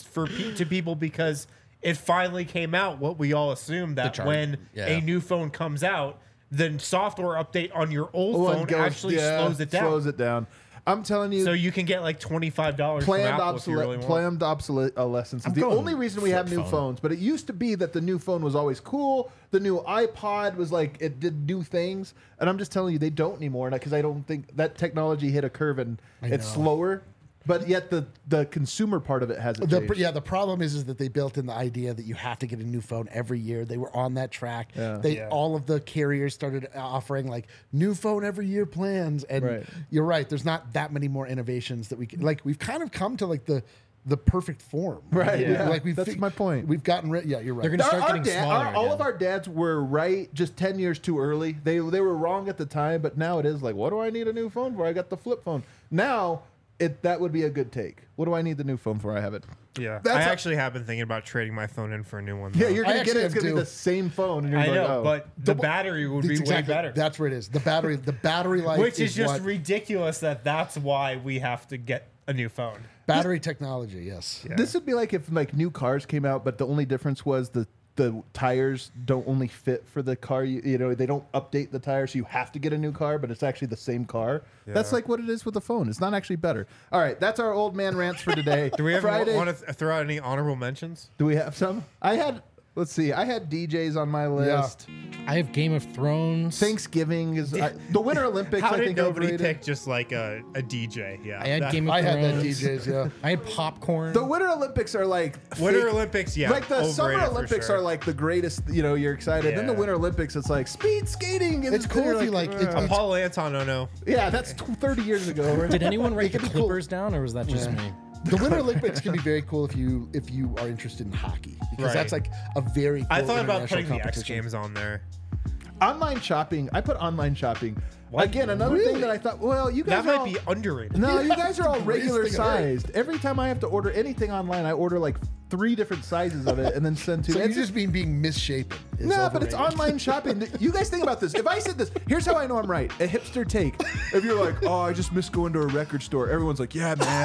to people because it finally came out. What we all assumed that charge. when Yeah. a new phone comes out, the software update on your old One phone goes- actually yeah, slows it down, Slows it down. I'm telling you. so you can get like $25 from Planned, Apple if you really want. planned obsolescence is the going only reason we have flip new phone. phones. But it used to be that the new phone was always cool. The new iPod was like it did new things, and I'm just telling you they don't anymore. Because I don't think that technology hit a curve and it's know. slower. But yet the consumer part of it hasn't changed. The problem is that they built in the idea that you have to get a new phone every year. They were on that track. Yeah. All of the carriers started offering like new phone every year plans, and Right. you're right. There's not that many more innovations that we can, like. We've kind of come to like the perfect form, Right, yeah. Like That's my point. We've gotten rid. Yeah, you're right. They're gonna start getting smaller all again. of our dads were right just 10 years too early. They were wrong at the time, but now it is like, what do I need a new phone for? I got the flip phone. Now that would be a good take. What do I need the new phone for? I have it. Yeah, That's I a- actually have been thinking about trading my phone in for a new one. Yeah, though. you're I gonna get actually it. It's have gonna be two. the same phone, and you're I like, know, oh. but the battery would be way better. That's where it is. The battery life, Which is just what- ridiculous that's why we have to get a new phone. battery technology. Yes. Yeah. This would be like if like new cars came out, but the only difference was the tires don't only fit for the car. You know, they don't update the tires, so you have to get a new car, but it's actually the same car. That's Yeah. like what it is with the phone. It's not actually better. All right, that's our old man rants for today. Do we ever Friday? want to throw out any honorable mentions? Do we have some? Let's see. I had DJs on my list. I have Game of Thrones. Thanksgiving is the Winter Olympics. How I did think nobody overrated. pick just like a DJ? Yeah, I had that- Game of I Thrones. had that DJs. Yeah. I had popcorn. The Winter Olympics are like Winter fake- Olympics. Yeah, like the Summer overrated for Olympics sure. are like the greatest. You know, you're excited. Then the Yeah. Winter Olympics, it's like speed skating. And It's cool you're if you like- it's- Paul Anton. Oh no. Yeah, that's 30 years ago. Right? Did anyone write the could be cool. Clippers down, or was that just me? The Winter Olympics can be very cool if you are interested in hockey, because Right. that's like a very cool I thought about international putting the X competition. Games on there. Online shopping. I put online shopping. What? Again, another thing that I thought. Well, you guys That are might all, be underrated. No, you guys are all greatest regular thing I've heard. sized. Every time I have to order anything online, I order like 3 different sizes of it and then send to. So you It's just mean being misshapen. is No, but it's overrated. online shopping. You guys think about this. If I said this, here's how I know I'm right. A hipster take. If you're like, oh, I just miss going to a record store. Everyone's like, yeah, man.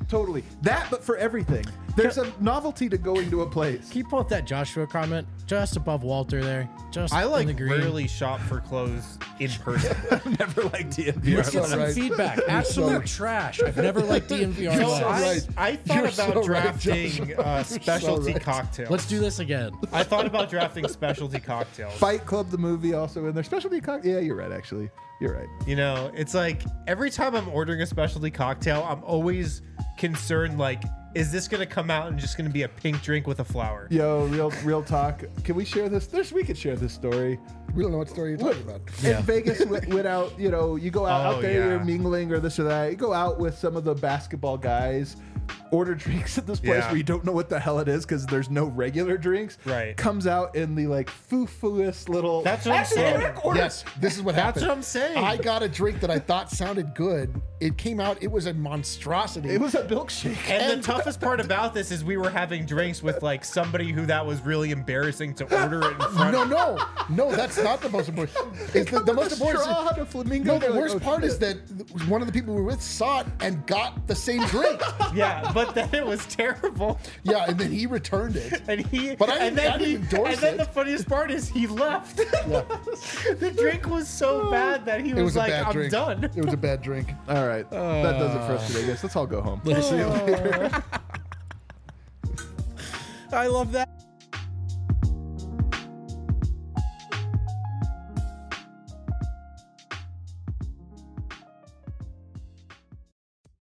Totally. That, but for everything. There's a novelty to going to a place. Can you pull up that Joshua comment just above Walter there? Just I in like the green. rarely shop for clothes in person. Never liked DNVR. Let's get some right. feedback. You're Absolute so- trash. I've never liked DNVR. You're less. so right. I thought You're about so right, drafting Joshua. You're so specialty right. cocktails. Let's do this again. I thought about drafting specialty cocktails. Fight Club, the movie, also in there. Specialty cocktail. Yeah, you're right, actually. You're right. You know, it's like every time I'm ordering a specialty cocktail, I'm always concerned, like, is this going to come out and just going to be a pink drink with a flower? Yo, real talk. Can we share this? We could share this story. We don't know what story you're talking about. In Vegas, went out, you know, you go out Oh, there, yeah. you're mingling or this or that. You go out with some of the basketball guys, order drinks at this place Yeah. where you don't know what the hell it is because there's no regular drinks. Right. Comes out in the like foo-fooest little. That's what I'm Actually, saying. Eric ordered- Yes, this is what That's happened. what I'm saying. I got a drink that I thought sounded good. It came out, it was a monstrosity. It was a milkshake. And the toughest part about this is we were having drinks with like somebody who that was really embarrassing to order it in front of. No, that's not the most important. It's the most important. Straw, the flamingo. No, the They're like, worst oh, part is shit. that one of the people we were with saw it and got the same drink. Yeah, but then it was terrible. Yeah, and then he returned it. And he, But I and didn't- then I didn't he, endorse and then it. the funniest part is he left. The drink was so bad that he It was, was a like, bad "I'm drink. done." It was a bad drink. All right, that does it for us today, guys. Let's all go home. I love that.